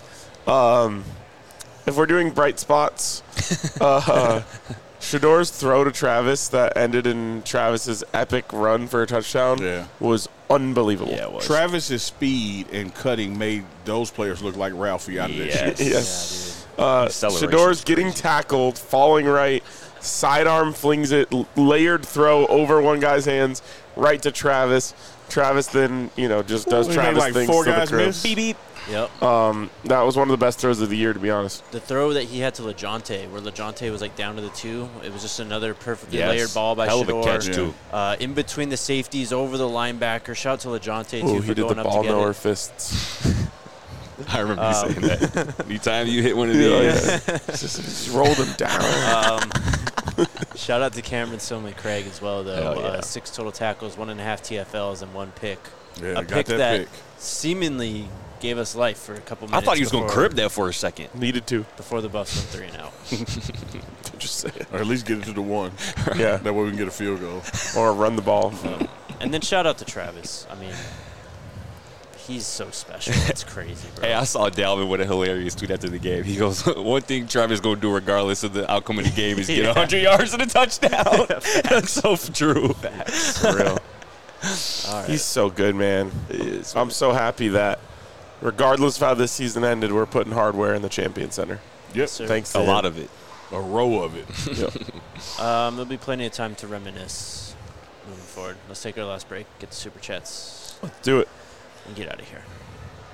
if we're doing bright spots, Shador's throw to Travis that ended in Travis's epic run for a touchdown Yeah. was unbelievable. Yeah, it was. Travis's speed and cutting made those players look like Ralphie out of that Yes. shit. Yes. Acceleration Shador's is getting crazy. tackled, falling right, sidearm flings it, layered throw over one guy's hands, right to Travis. Travis then, just does He made Travis like things 4 to the guys crib. miss. Beep, beep. Yep. That was one of the best throws of the year, to be honest. The throw that he had to LeJohntay, where LeJohntay was down to the 2, it was just another perfectly Yes. layered ball by Hell Shador. of a catch, Yeah. too. In between the safeties, over the linebacker. Shout out to LeJohntay, Ooh, too, he for did going the up ball to get knower it. fists. I remember you saying that. Anytime you hit one of Yeah, these. yeah. just rolled him down. Shout out to Cameron Sumley Craig as well, though. Hell yeah. 6 total tackles, 1.5 TFLs, and 1 pick. Yeah, a got pick that that pick. seemingly gave us life for a couple I minutes. thought he was going to before- crib that for a second. Needed to. before the Buffs went 3 and out. Just say it. Or at least get it to the 1. Yeah. That way we can get a field goal. Or run the ball. And then shout out to Travis. I mean, he's so special. It's crazy, bro. Hey, I saw Dalvin with a hilarious tweet after the game. He goes, one thing Travis going to do regardless of the outcome of the game is get 100 yards and a touchdown. That's so true. For real. All right. He's so good, man. I'm so happy that regardless of how this season ended, we're putting hardware in the Champion Center. Yep. Sir. Thanks to A him. lot of it. A row of it. Yep. There'll be plenty of time to reminisce moving forward. Let's take our last break, get the super chats, Do it. and get out of here.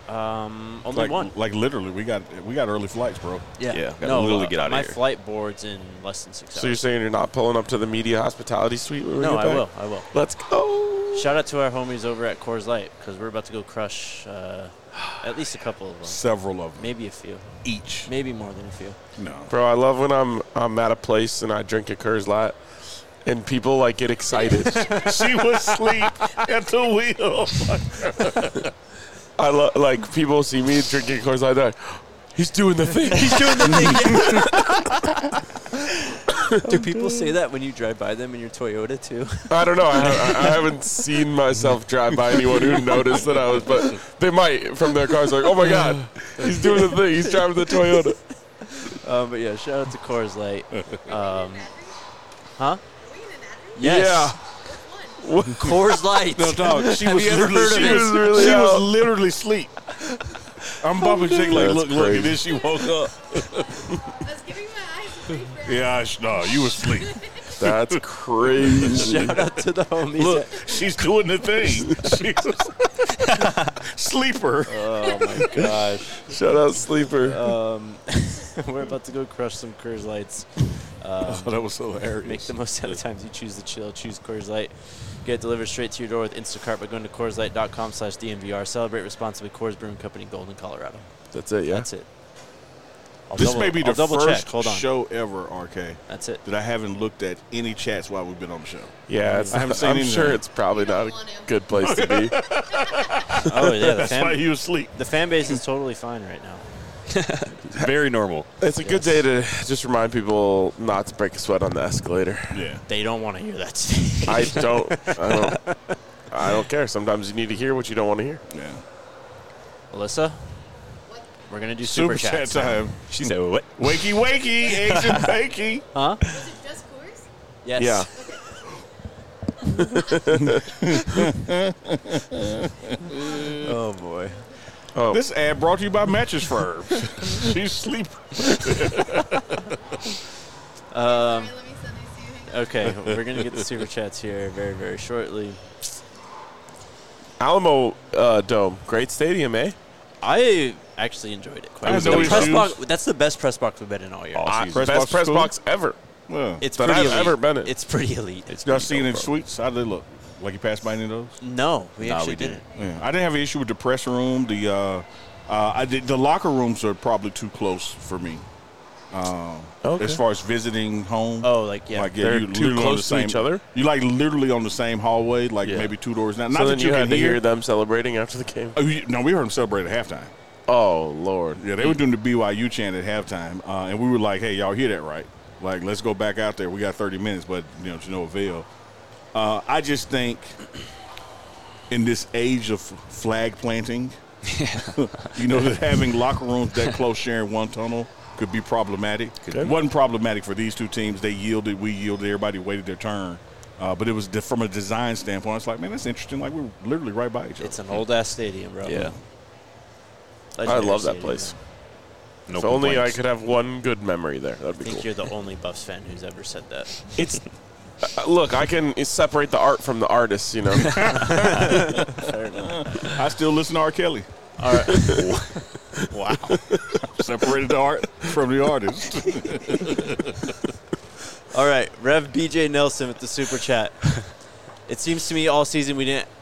Only one. Like literally, we got early flights, bro. Yeah, gotta No, literally get outta my here. flight board's in less than 6 hours. So you're saying you're not pulling up to the media hospitality suite when we No, get back? I will. Let's go. Shout out to our homies over at Coors Light because we're about to go crush at least a couple of them. Several of them Maybe a few. each. Maybe more than a few. No. Bro, I love when I'm at a place and I drink a Coors Light and people like get excited. She was asleep at the wheel. I love like people see me drinking Coors Light. They're like, he's doing the thing. He's doing the thing. Do people say that when you drive by them in your Toyota too? I don't know. I haven't seen myself drive by anyone who noticed that I was, but they might from their cars. Like, oh my God, he's doing the thing. He's driving the Toyota. But yeah, shout out to Coors Light. Huh? Yes. Yeah. Coors Light. No, dog. She Have was you ever literally, heard of she it? was really she out. was literally asleep. I'm bumping Jake like, That's look, crazy. and then she woke up. I was giving my eyes a break. Yeah, no, you was asleep. That's crazy. Shout out to the homies. Look, she's doing the thing. Sleeper. Oh my gosh. Shout out Sleeper. We're about to go crush some Coors Lights. Oh, that was hilarious. Make the most out of the times you choose to chill. Choose Coors Light. Get it delivered straight to your door with Instacart by going to CoorsLight.com/DNVR. Celebrate responsibly. Coors Brewing Company, Golden, Colorado. That's it, yeah? That's it. This may be the I'll double first check. Hold on. show ever, RK, That's it. that I haven't looked at any chats while we've been on the show. Yeah, it's, I haven't seen I'm anything. sure it's probably not a good place to be. Oh yeah, That's why you asleep. the fan base is totally fine right now. Very normal. It's a good day to just remind people not to break a sweat on the escalator. Yeah. They don't want to hear that. Steve. I don't care. Sometimes you need to hear what you don't want to hear. Yeah. Alyssa, we're gonna do Super super chat chats now. time. She said, what? Wakey, wakey, eggs and bakey. Huh? Was it just Coors? Yes. Yeah. Oh boy. Oh, This ad brought to you by Mattress Firm. She's sleeping. Sorry, let me send these to you. Hang on. Okay, we're gonna get the super chats here very, very shortly. Alamo Dome, great stadium, eh? I actually enjoyed it quite I a had bit. no The press issues. box, that's the best press box we've been in all year. Press Best box press cool? box ever. Well, It's that pretty I've elite. ever been in. It's pretty elite. y'all seen in suites? How did they look? Like you passed by any of those? No, we Nah, actually we didn't. didn't. Yeah. I didn't have an issue with the press room. The locker rooms are probably too close for me. Okay. As far as visiting home. Oh, like yeah. Like, They're you too literally on close the to same, each other? You like literally on the same hallway, like Yeah. maybe two doors down. So Not then that you can had to hear hear them celebrating after the game. Oh, no, we heard them celebrate at halftime. Oh, Lord. Yeah, they were doing the BYU chant at halftime, and we were like, "Hey, y'all hear that right? Like, let's go back out there. We got 30 minutes, but to no avail." I just think in this age of flag planting, that having locker rooms that close, sharing one tunnel, could be problematic. It wasn't problematic for these two teams. They yielded, we yielded. Everybody waited their turn. But it was from a design standpoint. It's like, man, that's interesting. Like, we're literally right by each other. It's an old ass stadium, bro. Yeah. Legendary I love that stadium, place. bro. No If only I complaints. could have one good memory there. That'd I be think cool. you're the only Buffs fan who's ever said that. It's look, I can separate the art from the artist, Fair enough. I still listen to R. Kelly. All right. Wow. Separated the art from the artist. All right, Rev BJ Nelson with the super chat. It seems to me all season we didn't.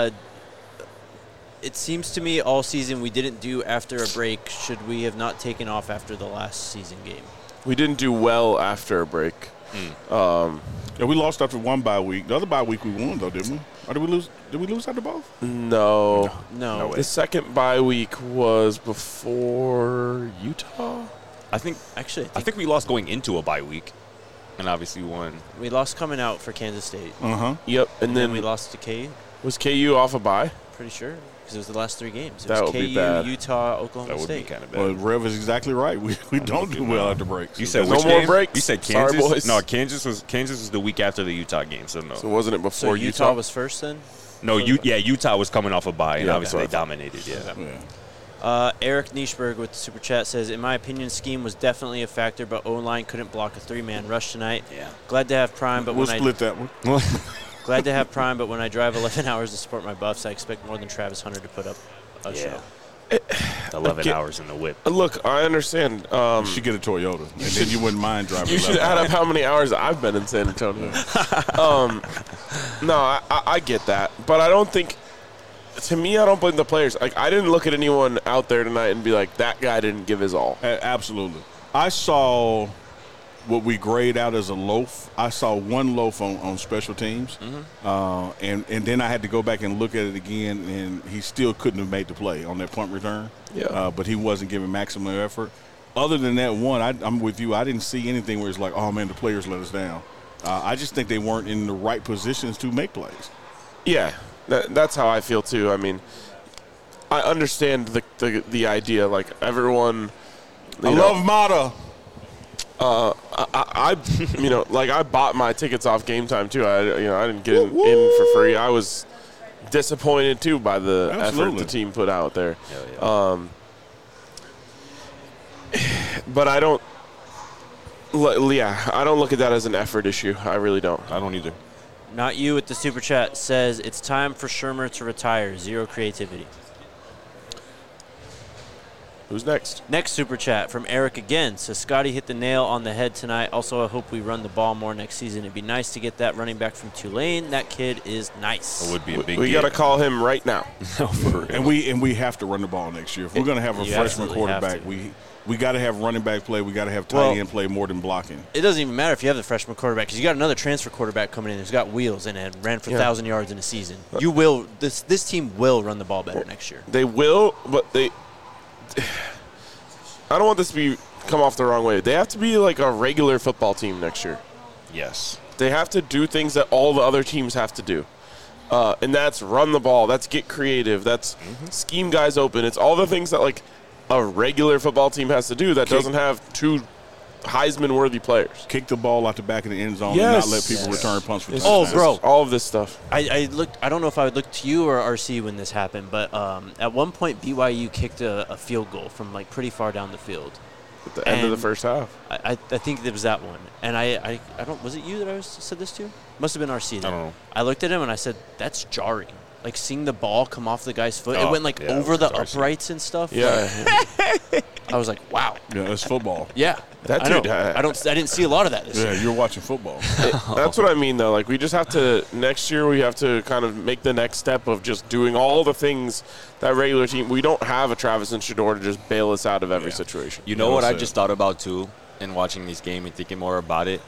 It seems to me all season we didn't do after a break. Should we have not taken off after the last season game? We didn't do well after a break. Yeah, we lost after one bye week. The other bye week we won though, didn't we? Or did we lose? Did we lose after both? No. No. The second bye week was before Utah. I think Actually, I think we lost going into a bye week, and obviously won. we lost coming out for Kansas State. Yep. And And then then we lost to KU. was KU off a bye? Pretty sure. Because it was the last three games. It That was would be KU, bad. Utah, Oklahoma That would State. be kind of bad. Well, Rev is exactly right. We don't do well after breaks. You said No which more game? breaks? You said Sorry, Kansas. boys. No, Kansas was the week after the Utah game. So no, So wasn't it So before Utah was first then? no. Utah was coming off a bye, and Yeah, obviously that's they what I dominated. Yeah. Yeah. Eric Nischberg with the super chat says, in my opinion, scheme was definitely a factor, but O-line couldn't block a three-man rush tonight. Yeah. Glad to have Prime, but We'll when split that one. glad to have Prime, but when I drive 11 hours to support my Buffs, I expect more than Travis Hunter to put up a show. 11 hours in the whip. Look, I understand. You should get a Toyota, and then you wouldn't mind driving. You should 11 add hours. up how many hours I've been in San Antonio. No, I get that, but I don't think. To me, I don't blame the players. Like, I didn't look at anyone out there tonight and be like, that guy didn't give his all. Absolutely. I saw what we grade out as a loaf. I saw one loaf on special teams, and then I had to go back and look at it again, and he still couldn't have made the play on that punt return. Yeah. But he wasn't giving maximum effort. Other than that one, I'm with you. I didn't see anything where it's like, oh, man, the players let us down. I just think they weren't in the right positions to make plays. Yeah, that's how I feel too. I mean, I understand the idea. Like, everyone. I love Mata. I like, I bought my tickets off Game Time too. I didn't get in for free. I was disappointed too by the effort the team put out there. But I don't. I don't look at that as an effort issue. I really don't. I don't either. Not you with the super chat says it's time for Shermer to retire. Zero creativity. Who's next? Next super chat from Eric again. So Scotty hit the nail on the head tonight. Also, I hope we run the ball more next season. It'd be nice to get that running back from Tulane. That kid is nice. It would be a big We got to get. call him right now. And we have to run the ball next year. If we're going to have a You freshman absolutely have quarterback, to. we got to have running back play. We got to have tight Well, end play more than blocking. It doesn't even matter if you have the freshman quarterback because you got another transfer quarterback coming in who's got wheels and ran for 1,000 yards in a season. You will. This team will run the ball better next year. They will, but they. I don't want this to come off the wrong way. They have to be like a regular football team next year. Yes. They have to do things that all the other teams have to do. And that's run the ball. That's get creative. That's scheme guys open. It's all the things that, like, a regular football team has to do that doesn't have two Heisman-worthy players. Kick the ball out the back of the end zone Yes. and not let people return punts for It's touchdowns. Oh, bro. all of this stuff. I looked. I don't know if I would look to you or RC when this happened, but at one point BYU kicked a field goal from like pretty far down the field. At the end of the And first half. I think it was that one, and I don't. Was it you that said this to? Must have been RC. Then. I don't know. I looked at him and I said, "That's jarring." Like seeing the ball come off the guy's foot, it Oh, went like yeah, over it the was RC. uprights and stuff. Yeah. I was like, "Wow." Yeah, that's football. Yeah, That I know. dude, I didn't see a lot of that this Yeah, year. you're watching football. That's what I mean, though. Like, we just have to, next year, we have to kind of make the next step of just doing all the things that regular team. We don't have a Travis and Shador to just bail us out of every situation. You know Well what I said. just thought about too, in watching this game and thinking more about it.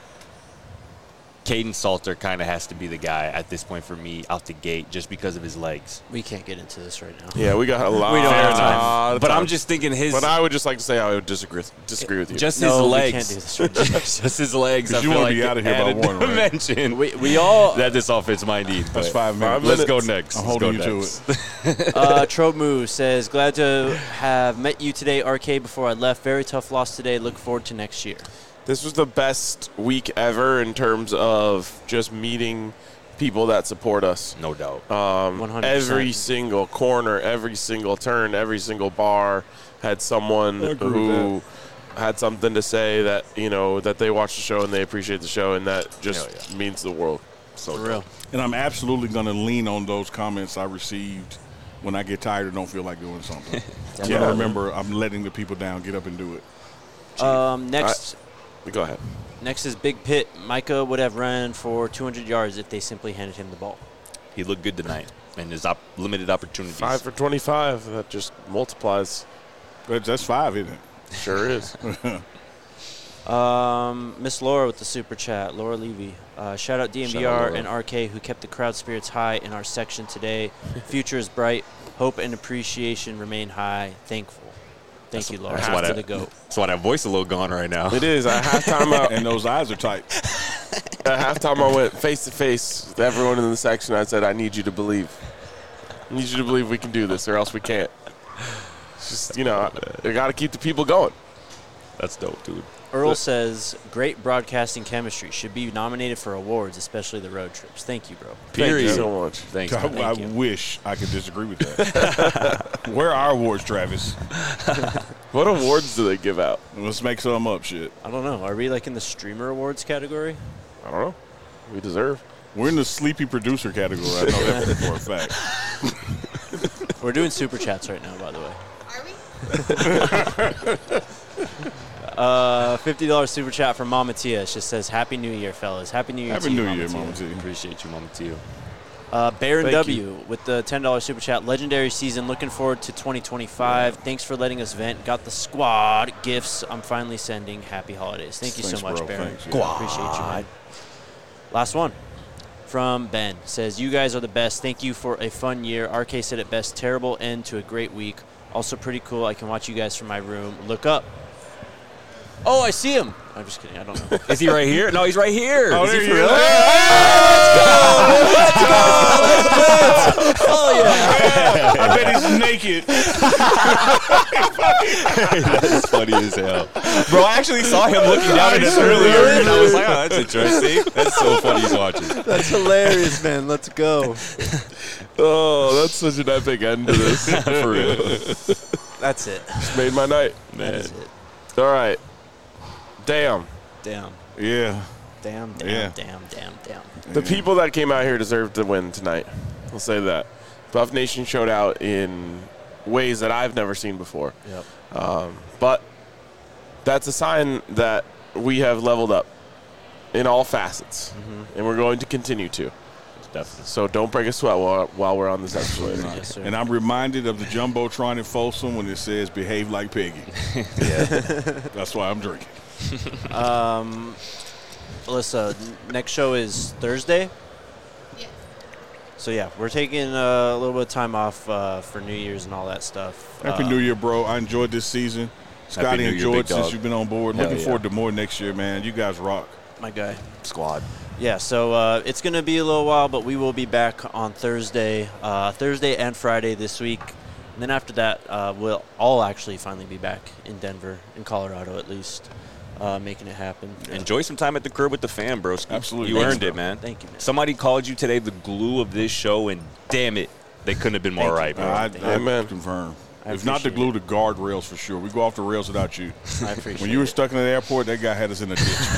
Caden Salter kind of has to be the guy at this point for me out the gate just because of his legs. We can't get into this right now. Yeah, we got a lot. We don't have of time. But time. I'm just thinking his But I would just like to say I would disagree with you. just No, his we legs. can't do this right now. Just his legs. I 'Cause you feel wanna like be out of here by added one, right? dimension. We all That this offense might need. That's but 5 minutes. minutes. Let's go next. I'm Let's holding go you next. to it. Tromu says, glad to have met you today, RK, before I left. Very tough loss today. Look forward to next year. This was the best week ever in terms of just meeting people that support us. No doubt. 100%. Every single corner, every single turn, every single bar had someone who had something to say that, you know, that they watch the show and they appreciate the show, and that just means the world. So For real. And I'm absolutely going to lean on those comments I received when I get tired or don't feel like doing something. I'm going to remember I'm letting the people down, get up and do it. Next Go ahead. next is Big Pit. Micah would have run for 200 yards if they simply handed him the ball. He looked good tonight, and his limited opportunities. 5 for 25. That just multiplies. But that's 5, isn't it? Sure is. Miss Laura with the super chat, Laura Levy. Shout out DMVR Shout out, Laura. and RK who kept the crowd spirits high in our section today. Future is bright. Hope and appreciation remain high. Thankful. Thank you, Laura, that's for why the GOAT. That's why that voice a little gone right now. It is. At halftime, And those eyes are tight. I went face to face with everyone in the section. I said, I need you to believe. I need you to believe we can do this, or else we can't. It's just, you know, I got to keep the people going. That's dope, dude. Earl says, great broadcasting chemistry. Should be nominated for awards, especially the road trips. Thank you, bro. Thank you Period. so much. Thanks. I, man. I you. wish I could disagree with that. Where are our awards, Travis? What awards do they give out? Let's make some up, shit. I don't know. Are we like in the streamer awards category? I don't know. We deserve. We're in the sleepy producer category. I know that for a fact. We're doing super chats right now, by the way. $50 super chat from Mama Tia. It just says, Happy New Year, fellas. Happy New Year Happy to you, New Year, Tia. Mama T. Appreciate you, Mama Tio. Baron Thank W with the $10 super chat. Legendary season. Looking forward to 2025. Thanks for letting us vent. Got the squad gifts I'm finally sending. Happy holidays. Thank you Thanks, so much, bro. Baron. Thanks, yeah. Appreciate you, man. Last one from Ben. Says, you guys are the best. Thank you for a fun year. RK said it best. Terrible end to a great week. Also pretty cool. I can watch you guys from my room. Look up. Oh, I see him. I'm just kidding. I don't know. Is he right here? No, he's right here. Oh, Is he there for you real? go. Oh, yeah. I bet he's naked. That's funny as hell. Bro, I actually saw him looking down at us earlier, and I was like, oh, That's interesting. That's so funny he's watching. That's hilarious, man. Let's go. Oh, that's such an epic end to this. For real. That's it. It's made my night. That is it. All right. Damn. Damn. Yeah. Damn, damn, Yeah. damn, damn, damn. The people that came out here deserve to win tonight. I'll say that. Buff Nation showed out in ways that I've never seen before. Yep. But that's a sign that we have leveled up in all facets, and we're going to continue to. Definitely. So don't break a sweat while we're on this episode. Yes, sir. And I'm reminded of the Jumbotron in Folsom when it says behave like Peggy. That's why I'm drinking. Alyssa, next show is Thursday. Yes. So, yeah, we're taking a little bit of time off for New Year's and all that stuff. Happy New Year, bro. I enjoyed this season. Scotty New Year, enjoyed big since dog. you've been on board. Hell Looking yeah. forward to more next year, man. You guys rock. My guy. Squad. Yeah, so it's going to be a little while, but we will be back on Thursday and Friday this week. And then after that, we'll all actually finally be back in Denver, in Colorado at least, making it happen. Enjoy some time at the crib with the fam, bro. Absolutely. You Thanks, earned bro. it, man. Thank you, man. Somebody called you today the glue of this show, and damn it, they couldn't have been more right, bro. I Amen. confirm. I If not the appreciate glue, the guardrails for sure. We go off the rails without you. I appreciate When you were it. stuck in the airport, that guy had us in a ditch.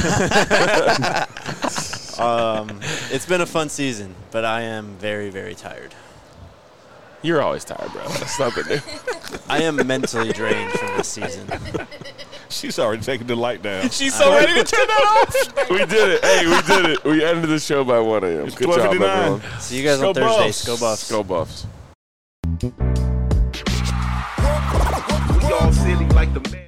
It's been a fun season, but I am very, very tired. You're always tired, bro. That's nothing new. I am mentally drained from this season. She's already taking the light down. She's so ready to turn that off. We did it. Hey, we did it. We ended the show by 1 a.m. It's Good job, 12:59. everyone. See you guys Go on Thursday. Buffs. Go Buffs. Go Buffs. We all silly like the man.